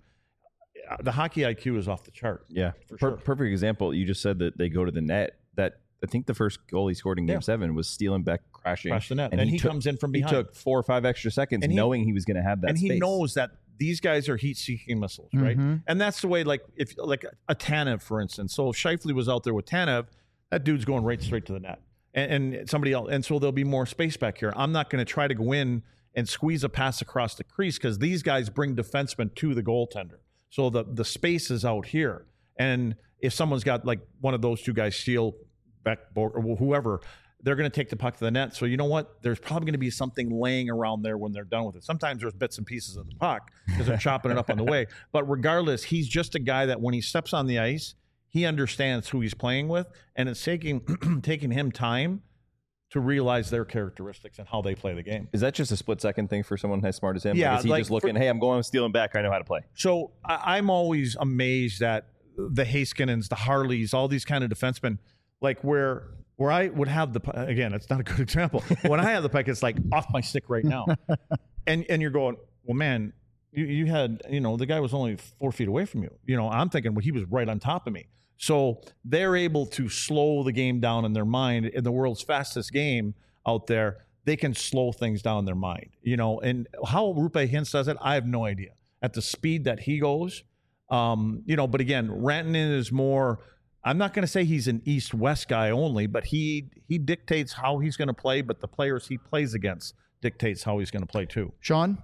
S1: The hockey I Q is off the chart.
S5: Yeah.
S1: For
S5: Per-
S1: sure.
S5: Perfect example. You just said that they go to the net. That I think the first goal he scored in game
S1: Yeah.
S5: seven was Steele and Beck crashing.
S1: Crash the net. And he
S5: took-
S1: comes in from behind.
S5: He took four or five extra seconds
S1: And he-
S5: knowing he was going to have that
S1: and he
S5: space.
S1: knows that these guys are heat-seeking missiles, right?
S2: Mhm.
S1: And that's the way, like if like a Tanev, for instance. So if Scheifele was out there with Tanev, that dude's going right straight to the net, and, and somebody else. And so there'll be more space back here. I'm not going to try to go in and squeeze a pass across the crease because these guys bring defensemen to the goaltender. So the the space is out here. And if someone's got like one of those two guys, Steele, Beck, or whoever, they're going to take the puck to the net. So you know what? There's probably going to be something laying around there when they're done with it. Sometimes there's bits and pieces of the puck because they're chopping it up on the way. But regardless, he's just a guy that when he steps on the ice, he understands who he's playing with, and it's taking taking him time to realize their characteristics and how they play the game.
S5: Is that just a split-second thing for someone as smart as him?
S1: Yeah.
S5: Like, is he
S1: like
S5: just looking,
S1: for,
S5: hey, I'm going, I'm stealing back, I know how to play?
S1: So I, I'm always amazed at the Haskinens, the Harleys, all these kind of defensemen, like where – where I would have the – again, it's not a good example. When I have the puck, it's like off my stick right now. and and you're going, well, man, you, you had – you know, the guy was only four feet away from you. You know, I'm thinking, well, he was right on top of me. So they're able to slow the game down in their mind. In the world's fastest game out there, they can slow things down in their mind. You know, and how Roope Hintz does it, I have no idea. At the speed that he goes, um, you know, but again, Rantanen is more – I'm not going to say he's an East-West guy only, but he he dictates how he's going to play, but the players he plays against dictates how he's going to play too.
S2: Sean?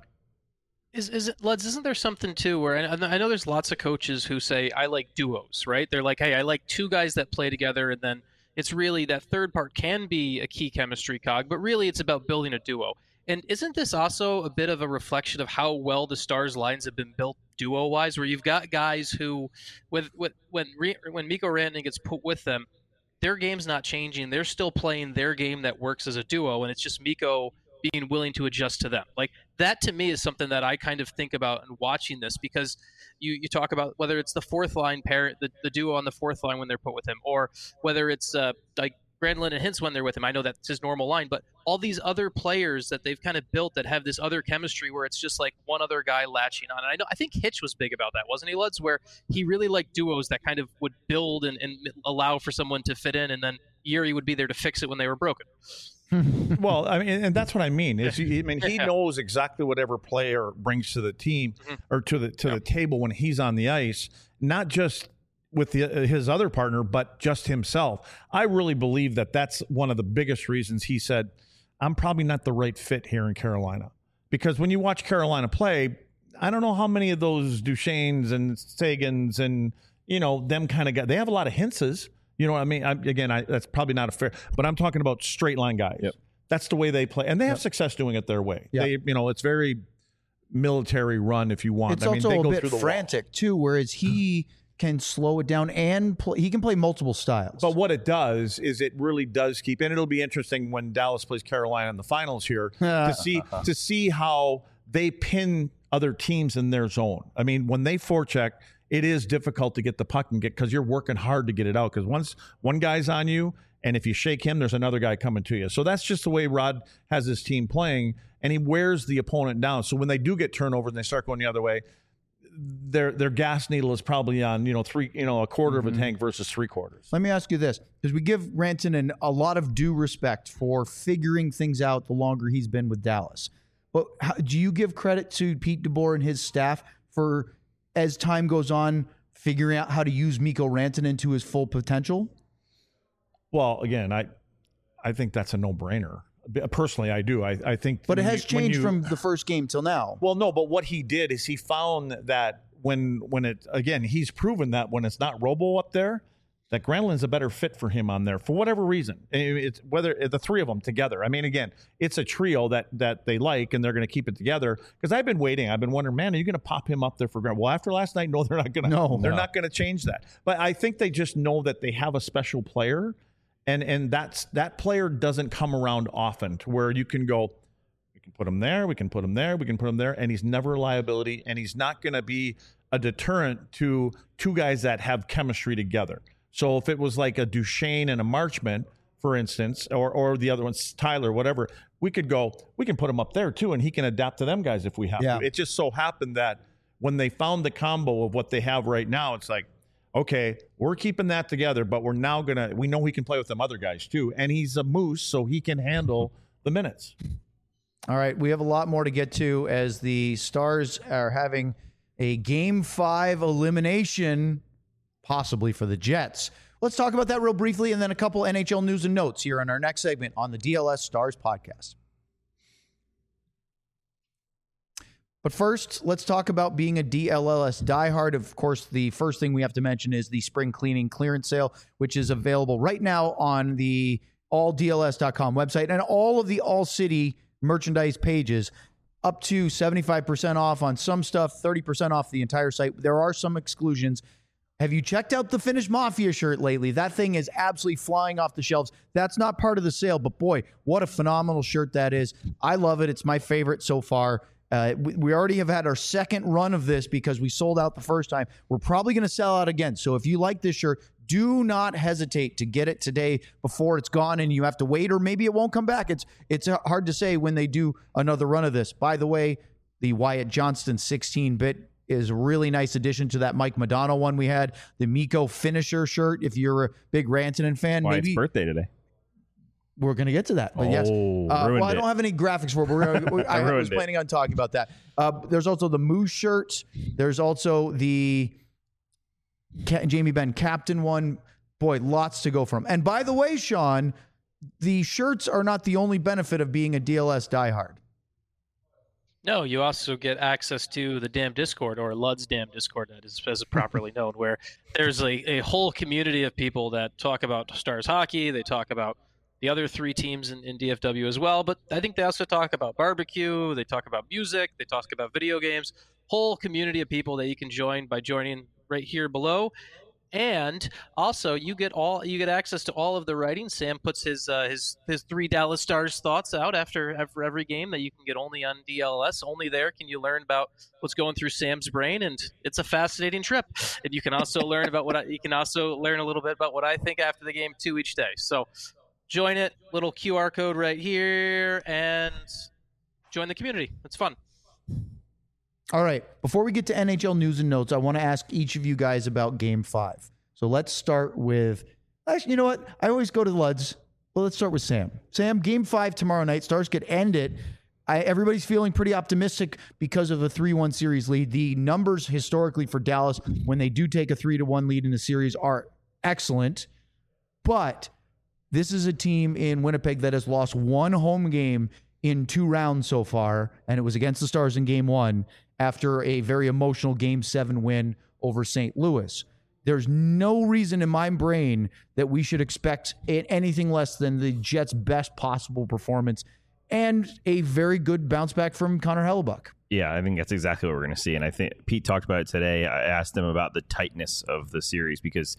S3: Is is it, Leds, isn't there something too where, and I know there's lots of coaches who say, I like duos, right? They're like, hey, I like two guys that play together, and then it's really that third part can be a key chemistry cog, but really it's about building a duo. And isn't this also a bit of a reflection of how well the Stars lines have been built duo-wise, where you've got guys who, with, with when when Mikko Rantanen gets put with them, their game's not changing. They're still playing their game that works as a duo, and it's just Mikko being willing to adjust to them. Like, that to me is something that I kind of think about in watching this, because you, you talk about whether it's the fourth line pair, the, the duo on the fourth line when they're put with him, or whether it's uh, like Granlund and Hintz when they're with him. I know that's his normal line, but all these other players that they've kind of built that have this other chemistry where it's just like one other guy latching on. And I know I think Hitch was big about that, wasn't he, Luds? Where he really liked duos that kind of would build and, and allow for someone to fit in, and then Yuri would be there to fix it when they were broken.
S1: Well, I mean, and that's what I mean. Is he, I mean, he knows exactly whatever player brings to the team mm-hmm. or to the to yeah. the table when he's on the ice, not just with the, uh, his other partner, but just himself. I really believe that that's one of the biggest reasons he said, I'm probably not the right fit here in Carolina. Because when you watch Carolina play, I don't know how many of those Duchesnes and Sagans and, you know, them kind of guys, they have a lot of Hintzes. You know what I mean? I, again, I, that's probably not a fair, but I'm talking about straight line guys. Yep. That's the way they play. And they have yep. success doing it their way. Yep. They, you know, it's very military run if you want.
S2: It's
S1: I mean,
S2: also
S1: they
S2: a
S1: go
S2: bit
S1: through the
S2: frantic
S1: wall.
S2: too, whereas he can slow it down and play, he can play multiple styles.
S1: But what it does is it really does keep, and it'll be interesting when Dallas plays Carolina in the finals here to see to see how they pin other teams in their zone. I mean, when they forecheck, it is difficult to get the puck and get, because you're working hard to get it out, because once one guy's on you, and if you shake him, there's another guy coming to you. So that's just the way Rod has his team playing, and he wears the opponent down. So when they do get turnover and they start going the other way, their their gas needle is probably on, you know, three, you know, a quarter mm-hmm. of a tank versus three quarters.
S2: Let me ask you this, because we give Rantanen a lot of due respect for figuring things out the longer he's been with Dallas. But how, do you give credit to Pete DeBoer and his staff for, as time goes on, figuring out how to use Mikko Rantanen to his full potential?
S1: Well, again, I I think that's a no-brainer. Personally, I do. I, I think,
S2: but it has
S1: you,
S2: changed
S1: you,
S2: from the first game till now.
S1: Well, no, but what he did is he found that when when it again, he's proven that when it's not Robo up there, that Granlund's a better fit for him on there for whatever reason. It's whether the three of them together. I mean, again, it's a trio that that they like, and they're going to keep it together. Because I've been waiting. I've been wondering, man, are you going to pop him up there for Granlund? Well, after last night, no, they're not going to.
S2: No,
S1: they're
S2: no.
S1: not going to change that. But I think they just know that they have a special player. And and that's that player doesn't come around often to where you can go, we can put him there, we can put him there, we can put him there, and he's never a liability, and he's not going to be a deterrent to two guys that have chemistry together. So if it was like a Duchesne and a Marchment, for instance, or or the other one's Tyler, whatever, we could go, we can put him up there too, and he can adapt to them guys if we have
S2: yeah.
S1: to. It just so happened that when they found the combo of what they have right now, it's like, okay, we're keeping that together, but we're now going to – we know he can play with them other guys too, and he's a moose, so he can handle the minutes.
S2: All right, we have a lot more to get to as the Stars are having a Game five elimination, possibly for the Jets. Let's talk about that real briefly, and then a couple N H L news and notes here on our next segment on the D L S Stars podcast. But first, let's talk about being a D L L S diehard. Of course, the first thing we have to mention is the spring cleaning clearance sale, which is available right now on the all D L S dot com website and all of the All City merchandise pages, up to seventy-five percent off on some stuff, thirty percent off the entire site. There are some exclusions. Have you checked out the Finnish Mafia shirt lately? That thing is absolutely flying off the shelves. That's not part of the sale, but boy, what a phenomenal shirt that is. I love it. It's my favorite so far. Uh, we, we already have had our second run of this because we sold out the first time. We're probably going to sell out again. So if you like this shirt, do not hesitate to get it today before it's gone and you have to wait, or maybe it won't come back. It's it's hard to say when they do another run of this. By the way, the Wyatt Johnston sixteen-bit is a really nice addition to that Mike Madonna one we had. The Mikko Finisher shirt, if you're a big Rantanen fan.
S5: Wyatt's
S2: maybe
S5: birthday today.
S2: We're going to get to that. But
S5: oh,
S2: yes. Uh, well, I don't
S5: it.
S2: have any graphics for it, but we're gonna, I, I was planning
S5: it.
S2: on talking about that. Uh, there's also the Moose shirt. There's also the Jamie Benn Captain one. Boy, lots to go from. And by the way, Sean, the shirts are not the only benefit of being a D L S diehard.
S3: No, you also get access to the Damn Discord, or Lud's Damn Discord, that is, as properly known, where there's a, a whole community of people that talk about Stars hockey. They talk about the other three teams in, in D F W as well, but I think they also talk about barbecue. They talk about music. They talk about video games. Whole community of people that you can join by joining right here below. And also, you get all you get access to all of the writing. Sam puts his uh, his his three Dallas Stars thoughts out after after every game that you can get only on D L S. Only there can you learn about what's going through Sam's brain, and it's a fascinating trip. And you can also learn about what I, you can also learn a little bit about what I think after the game too each day. So join it. Little Q R code right here, and join the community. It's fun.
S2: All right. Before we get to N H L news and notes, I want to ask each of you guys about Game Five. So let's start with. Actually, you know what? I always go to the Luds. Well, let's start with Sam. Sam, Game Five tomorrow night. Stars could end it. I, everybody's feeling pretty optimistic because of a three one series lead. The numbers historically for Dallas when they do take a three to one lead in the series are excellent, but this is a team in Winnipeg that has lost one home game in two rounds so far, and it was against the Stars in Game One after a very emotional Game Seven win over Saint Louis. There's no reason in my brain that we should expect anything less than the Jets' best possible performance and a very good bounce back from Connor Hellebuyck.
S5: Yeah, I think that's exactly what we're going to see. And I think Pete talked about it today. I asked him about the tightness of the series because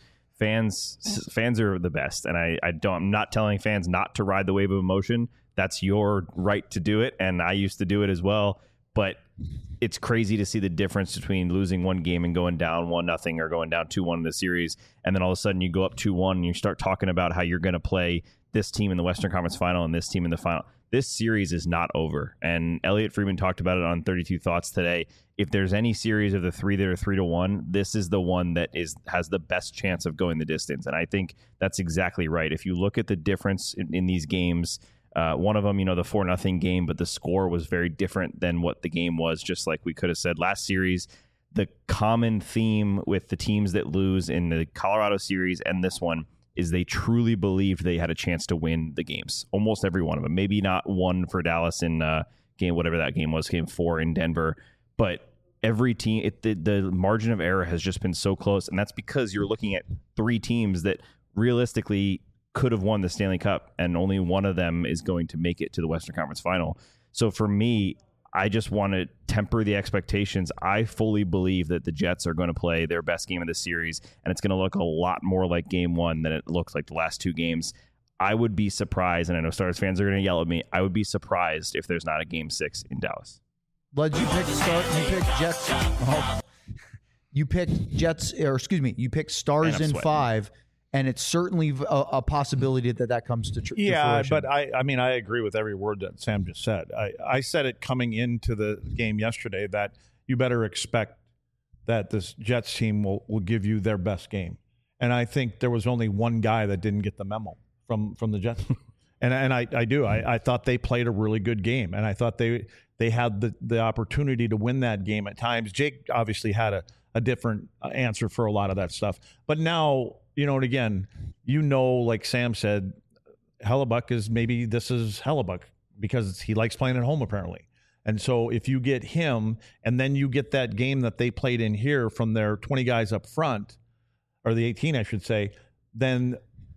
S5: fans fans are the best. And I, I don't, I'm not telling fans not to ride the wave of emotion. That's your right to do it. And I used to do it as well. But it's crazy to see the difference between losing one game and going down one nothing or going down two one in the series, and then all of a sudden you go up two one and you start talking about how you're going to play this team in the Western Conference Final and this team in the final. This series is not over, and Elliot Friedman talked about it on thirty-two Thoughts today. If there's any series of the three that are three to one, this is the one that is has the best chance of going the distance, and I think that's exactly right. If you look at the difference in, in these games. Uh, one of them, you know, the four nothing game, but the score was very different than what the game was, just like we could have said last series. The common theme with the teams that lose in the Colorado series and this one is they truly believed they had a chance to win the games. Almost every one of them. Maybe not one for Dallas in uh, game, whatever that game was, game four in Denver. But every team, it, the, the margin of error has just been so close. And that's because you're looking at three teams that realistically could have won the Stanley Cup, and only one of them is going to make it to the Western Conference Final. So for me, I just want to temper the expectations. I fully believe that the Jets are going to play their best game of the series, and it's going to look a lot more like game one than it looks like the last two games. I would be surprised, and I know Stars fans are going to yell at me, I would be surprised if there's not a game six in Dallas.
S2: Bud, you picked Star, you picked Jets. Oh, you picked Jets, or excuse me, you picked Stars in five. And it's certainly a, a possibility that that comes to, tr-
S1: yeah,
S2: to fruition.
S1: but I, I mean, I agree with every word that Sam just said. I, I said it coming into the game yesterday that you better expect that this Jets team will, will give you their best game. And I think there was only one guy that didn't get the memo from, from the Jets. and and I, I do. I, I thought they played a really good game. And I thought they they had the, the opportunity to win that game at times. Jake obviously had a, a different answer for a lot of that stuff. But now... You know, and again, you know, like Sam said, Hellebuyck is maybe this is Hellebuyck because he likes playing at home, apparently. And so if you get him and then you get that game that they played in here from their twenty guys up front, or the eighteen, I should say, then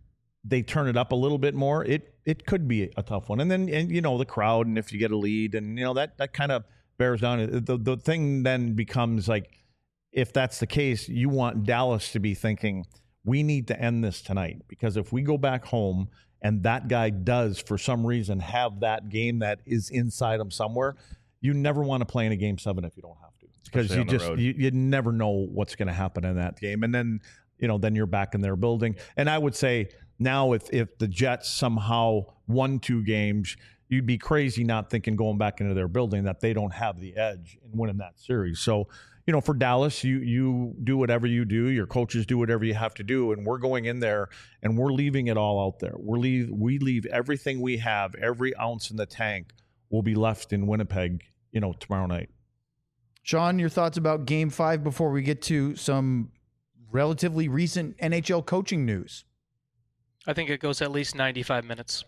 S1: they turn it up a little bit more, it it could be a tough one. And then, and you know, the crowd, and if you get a lead, and you know that that kind of bears down. The the thing then becomes like, if that's the case, you want Dallas to be thinking, we need to end this tonight, because if we go back home and that guy does for some reason have that game that is inside him somewhere, you never want to play in a game seven if you don't have to, because you just you, you never know what's going to happen in that game. And then, you know, then you're back in their building. And I would say now if if the Jets somehow won two games, you'd be crazy not thinking going back into their building that they don't have the edge in winning that series. So, you know, for Dallas, you you do whatever you do. Your coaches do whatever you have to do, and we're going in there and we're leaving it all out there. We're leave we leave everything we have, every ounce in the tank will be left in Winnipeg, you know, tomorrow night.
S2: Sean, your thoughts about Game Five before we get to some relatively recent N H L coaching news?
S3: I think it goes at least ninety-five minutes.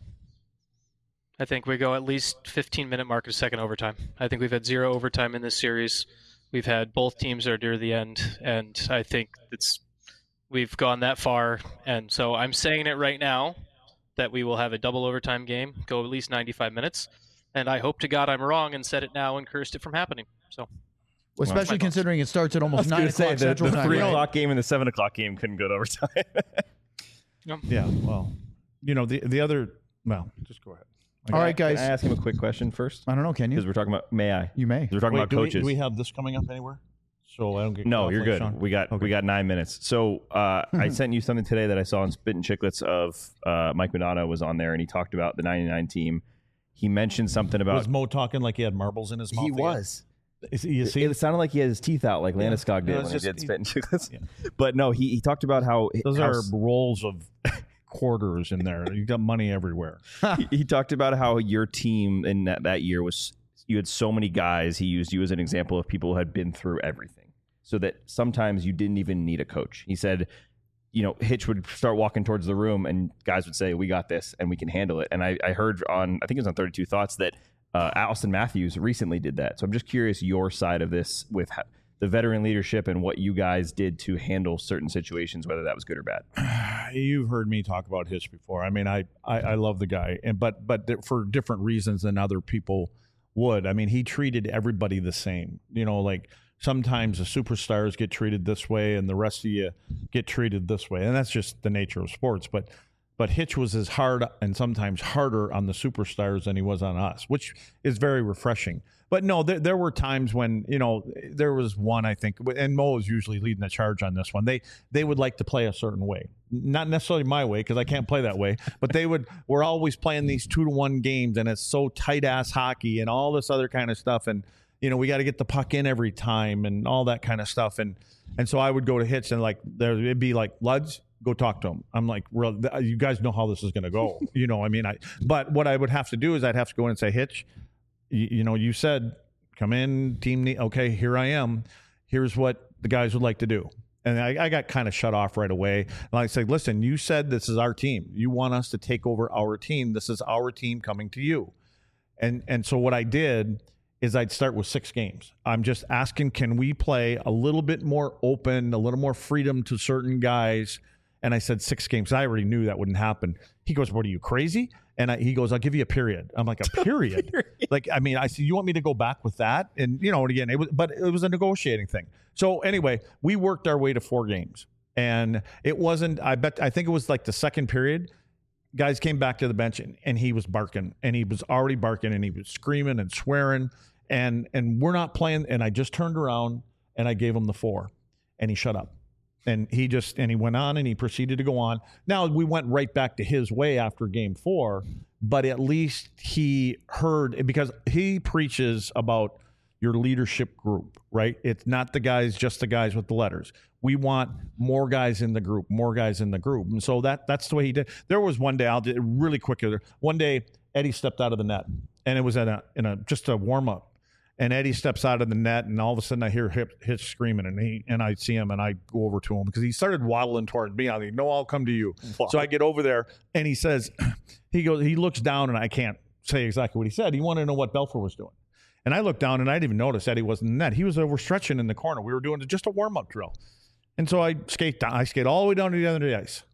S3: I think we go at least fifteen minute mark of second overtime. I think we've had zero overtime in this series. We've had both teams are near the end, and I think it's we've gone that far. And so I'm saying it right now that we will have a double overtime game, go at least ninety-five minutes. And I hope to God I'm wrong and said it now and cursed it from happening. So,
S2: well, especially considering it starts at almost nine o'clock
S5: say,
S2: Central
S5: the, the
S2: Time.
S5: three
S2: right?
S5: o'clock game and the seven o'clock game couldn't go to overtime.
S3: Yep.
S1: Yeah, well, you know, the the other, well, just go ahead.
S2: All right, guys.
S5: Can I ask him a quick question first?
S2: I don't know, can you?
S5: Because we're talking about, may I?
S2: You may.
S5: We're talking
S1: Wait,
S5: about
S1: do
S5: coaches.
S1: We, do we have this coming up anywhere? So I don't get
S5: No,
S1: off
S5: you're
S1: like
S5: good.
S1: Sean?
S5: We got
S1: Okay.
S5: we got nine minutes. So uh, I sent you something today that I saw on Spit and Chicklets of uh, Mike Modano was on there, and he talked about the ninety-nine team. He mentioned something about
S1: Was Mo talking like he had marbles in his mouth?
S5: he
S1: again?
S5: was.
S1: Is, you see,
S5: It, it sounded like he had his teeth out, like
S1: Yeah.
S5: Landeskog did
S1: No,
S5: when
S1: it's
S5: he
S1: just-
S5: did
S1: he-
S5: Spit and Chicklets.
S1: Yeah.
S5: But no, he, he talked about how
S1: those
S5: how
S1: are rolls of quarters in there. You got money everywhere.
S5: he, he talked about how your team in that, that year was you had so many guys. He used you as an example of people who had been through everything, so that sometimes you didn't even need a coach. He said, you know, Hitch would start walking towards the room and guys would say, we got this and we can handle it. And I, I heard on, I think it was on thirty-two Thoughts that uh, Austin Matthews recently did that. So I'm just curious your side of this with ha- the veteran leadership and what you guys did to handle certain situations, whether that was good or bad.
S1: You've heard me talk about Hitch before. I mean, I, I, I love the guy, and but but for different reasons than other people would. I mean, he treated everybody the same. You know, like sometimes the superstars get treated this way, and the rest of you get treated this way, and that's just the nature of sports. But but Hitch was as hard and sometimes harder on the superstars than he was on us, which is very refreshing. But no, there, there were times when, you know, there was one, I think, and Mo is usually leading the charge on this one. They they would like to play a certain way, not necessarily my way because I can't play that way, but they would. We're always playing these two to one games, and it's so tight ass hockey and all this other kind of stuff, and you know we got to get the puck in every time and all that kind of stuff, and and so I would go to Hitch and like there it'd be like Luds. Go talk to him. I'm like, well, you guys know how this is going to go. You know, I mean, I. But what I would have to do is I'd have to go in and say, Hitch, you, you know, you said come in, team. Need, okay, here I am. Here's what the guys would like to do. And I, I got kind of shut off right away. And I said, listen, you said this is our team. You want us to take over our team. This is our team coming to you. And and so what I did is I'd start with six games. I'm just asking, can we play a little bit more open, a little more freedom to certain guys? And I said six games. I already knew that wouldn't happen. He goes, what, are you crazy? And I, he goes, I'll give you a period. I'm like, a period? period? Like, I mean, I said, you want me to go back with that? And, you know, and again, it was, but it was a negotiating thing. So anyway, we worked our way to four games. And it wasn't, I bet, I think it was like the second period. Guys came back to the bench and, and he was barking. And he was already barking and he was screaming and swearing. And, and we're not playing. And I just turned around and I gave him the four. And he shut up. And he just, and he went on and he proceeded to go on. Now, we went right back to his way after game four, but at least he heard, because he preaches about your leadership group, right? It's not the guys, just the guys with the letters. We want more guys in the group, more guys in the group. And so that that's the way he did. There was one day, I'll do it really quick. One day, Eddie stepped out of the net, and it was in a, in a just a warm-up. And Eddie steps out of the net, and all of a sudden I hear Hitch screaming, and he and I see him, and I go over to him because he started waddling towards me. I think, no, I'll come to you. Wow. So I get over there, and he says, he goes, he looks down, and I can't say exactly what he said. He wanted to know what Belfour was doing, and I looked down, and I didn't even notice Eddie wasn't in the net. He was overstretching in the corner. We were doing just a warm up drill, and so I skate down. I skate all the way down to the end of the ice.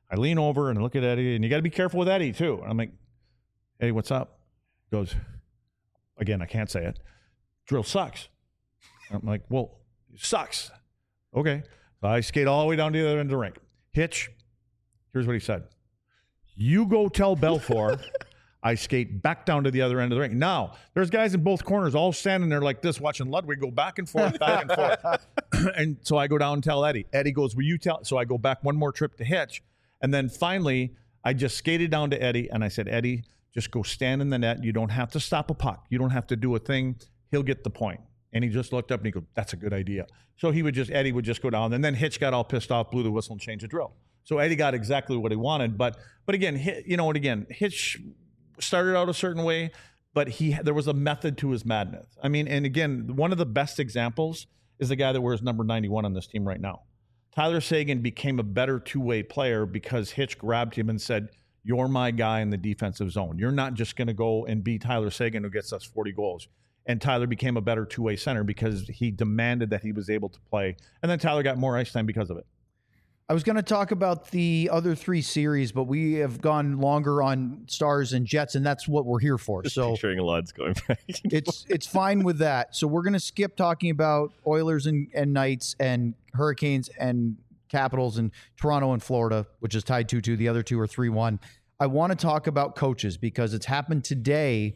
S1: I lean over and I look at Eddie, and you got to be careful with Eddie too. I'm like, "Hey, what's up?" He goes, again, I can't say it. "Drill sucks." I'm like, "Well, it sucks." Okay. So I skate all the way down to the other end of the rink. Hitch, here's what he said. "You go tell Belfour." I skate back down to the other end of the ring. Now, there's guys in both corners all standing there like this watching Ludwig go back and forth, back and forth. And so I go down and tell Eddie. Eddie goes, "Will you tell?" So I go back one more trip to Hitch. And then finally, I just skated down to Eddie, and I said, "Eddie, just go stand in the net. You don't have to stop a puck. You don't have to do a thing. He'll get the point." And he just looked up and he goes, "That's a good idea." So he would just, Eddie would just go down. And then Hitch got all pissed off, blew the whistle, and changed the drill. So Eddie got exactly what he wanted. But but again, you know, and again, Hitch started out a certain way, but he there was a method to his madness. I mean, and again, one of the best examples is the guy that wears number ninety-one on this team right now. Tyler Seguin became a better two-way player because Hitch grabbed him and said, "You're my guy in the defensive zone. You're not just going to go and be Tyler Seguin who gets us forty goals. And Tyler became a better two-way center because he demanded that he was able to play. And then Tyler got more ice time because of it.
S2: I was going to talk about the other three series, but we have gone longer on Stars and Jets, and that's what we're here for.
S5: Just
S2: so
S5: picturing Luds going back.
S2: it's it's fine with that. So we're going to skip talking about Oilers and, and Knights and Hurricanes and Capitals and Toronto and Florida, which is tied two two. The other two are three one. I want to talk about coaches because it's happened today.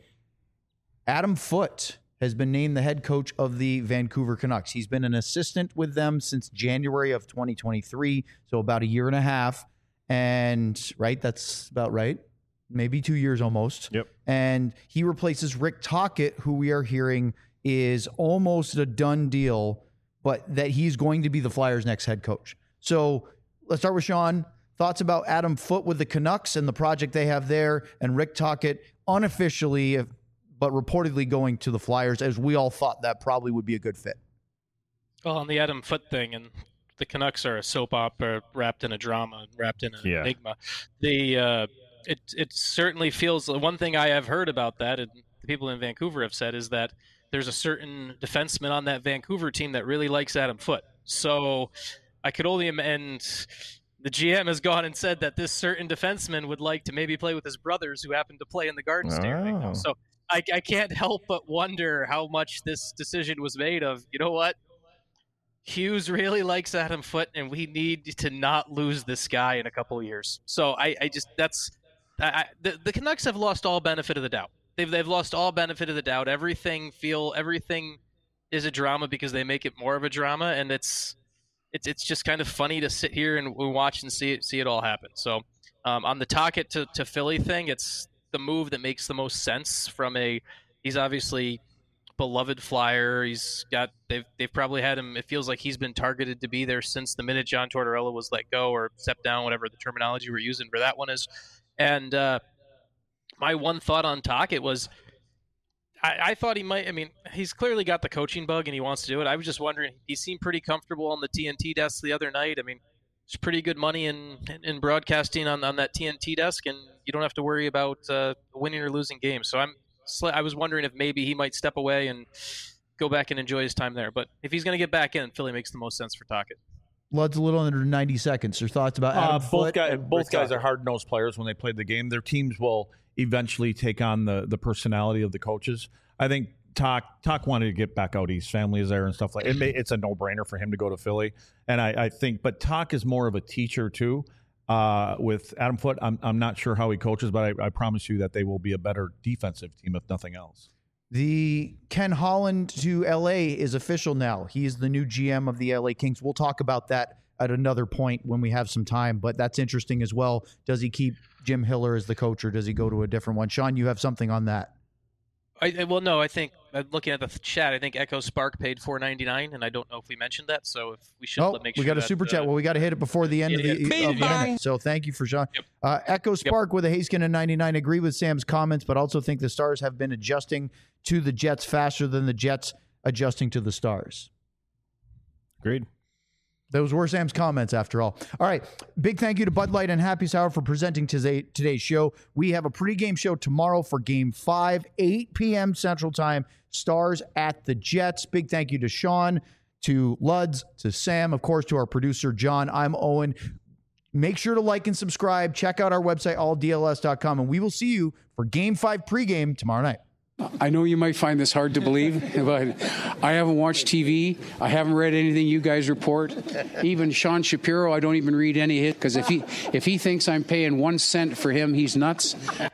S2: Adam Foote has been named the head coach of the Vancouver Canucks. He's been an assistant with them since January of twenty twenty-three, so about a year and a half. And, right, that's about right. Maybe two years almost.
S5: Yep.
S2: And he replaces Rick Tocchet, who we are hearing is almost a done deal, but that he's going to be the Flyers' next head coach. So let's start with Sean. Thoughts about Adam Foote with the Canucks and the project they have there, and Rick Tocchet unofficially, but reportedly going to the Flyers, as we all thought that probably would be a good fit.
S3: Well, on the Adam Foote thing, and the Canucks are a soap opera wrapped in a drama, wrapped in an
S5: Yeah.
S3: enigma. The uh, it it certainly feels. One thing I have heard about that, and the people in Vancouver have said, is that there's a certain defenseman on that Vancouver team that really likes Adam Foote. So I could only and the G M has gone and said that this certain defenseman would like to maybe play with his brothers who happen to play in the Garden State right now.
S5: Oh.
S3: So I, I can't help but wonder how much this decision was made of, you know what? Hughes really likes Adam Foote, and we need to not lose this guy in a couple of years. So I, I just that's I, I, the the Canucks have lost all benefit of the doubt. They've they've lost all benefit of the doubt. Everything feel everything is a drama because they make it more of a drama, and it's it's it's just kind of funny to sit here and watch and see it see it all happen. So um, on the Tocchet to to Philly thing, it's the move that makes the most sense from a he's obviously beloved Flyer. He's got they've they've probably had him. It feels like he's been targeted to be there since the minute John Tortorella was let go or stepped down, whatever the terminology we're using for that one is. And uh, my one thought on Tocchet was I, I thought he might. I mean, he's clearly got the coaching bug and he wants to do it. I was just wondering. He seemed pretty comfortable on the T N T desk the other night. I mean, there's pretty good money in in broadcasting on on that T N T desk, and you don't have to worry about uh, winning or losing games. So I'm. I was wondering if maybe he might step away and go back and enjoy his time there. But if he's going to get back in, Philly makes the most sense for Tocchet.
S2: Lud's a little under ninety seconds. Your thoughts about Adam
S1: uh,
S2: Foote?
S1: Both, guys,
S2: and
S1: both
S2: Rick
S1: guys
S2: Tocchet?
S1: are hard-nosed players when they play the game. Their teams will eventually take on the, the personality of the coaches. I think Toc, Toc wanted to get back out. His family is there and stuff like it. May, it's a no-brainer for him to go to Philly. And I, I think, but Toc is more of a teacher too. Uh, with Adam Foote, I'm I'm not sure how he coaches, but I, I promise you that they will be a better defensive team if nothing else.
S2: The Ken Holland to L A is official now. He is the new G M of the L A Kings. We'll talk about that at another point when we have some time, but that's interesting as well. Does he keep Jim Hiller as the coach, or does he go to a different one? Sean, you have something on that.
S3: I, well, no, I think uh, looking at the chat, I think Echo Spark paid four ninety-nine, and I don't know if we mentioned that. So if we should
S2: Oh,
S3: make
S2: we
S3: sure
S2: got a
S3: that,
S2: super
S3: uh,
S2: chat. Well, we got to hit it before the end
S3: yeah,
S2: of the,
S3: yeah.
S2: of the minute. So thank you for Sean.
S3: Yep.
S2: Uh, Echo Spark with a Haskin and ninety-nine. Agree with Sam's comments, but also think the Stars have been adjusting to the Jets faster than the Jets adjusting to the Stars.
S5: Agreed.
S2: Those were Sam's comments, after all. All right. Big thank you to Bud Light and Happy Hour for presenting today, today's show. We have a pregame show tomorrow for Game five, eight p.m. Central Time. Stars at the Jets. Big thank you to Sean, to Luds, to Sam, of course, to our producer, John. I'm Owen. Make sure to like and subscribe. Check out our website, all D L S dot com, and we will see you for Game five pregame tomorrow night.
S11: I know you might find this hard to believe, but I haven't watched T V. I haven't read anything you guys report. Even Sean Shapiro, I don't even read any of it, because if he, if he thinks I'm paying one cent for him, he's nuts.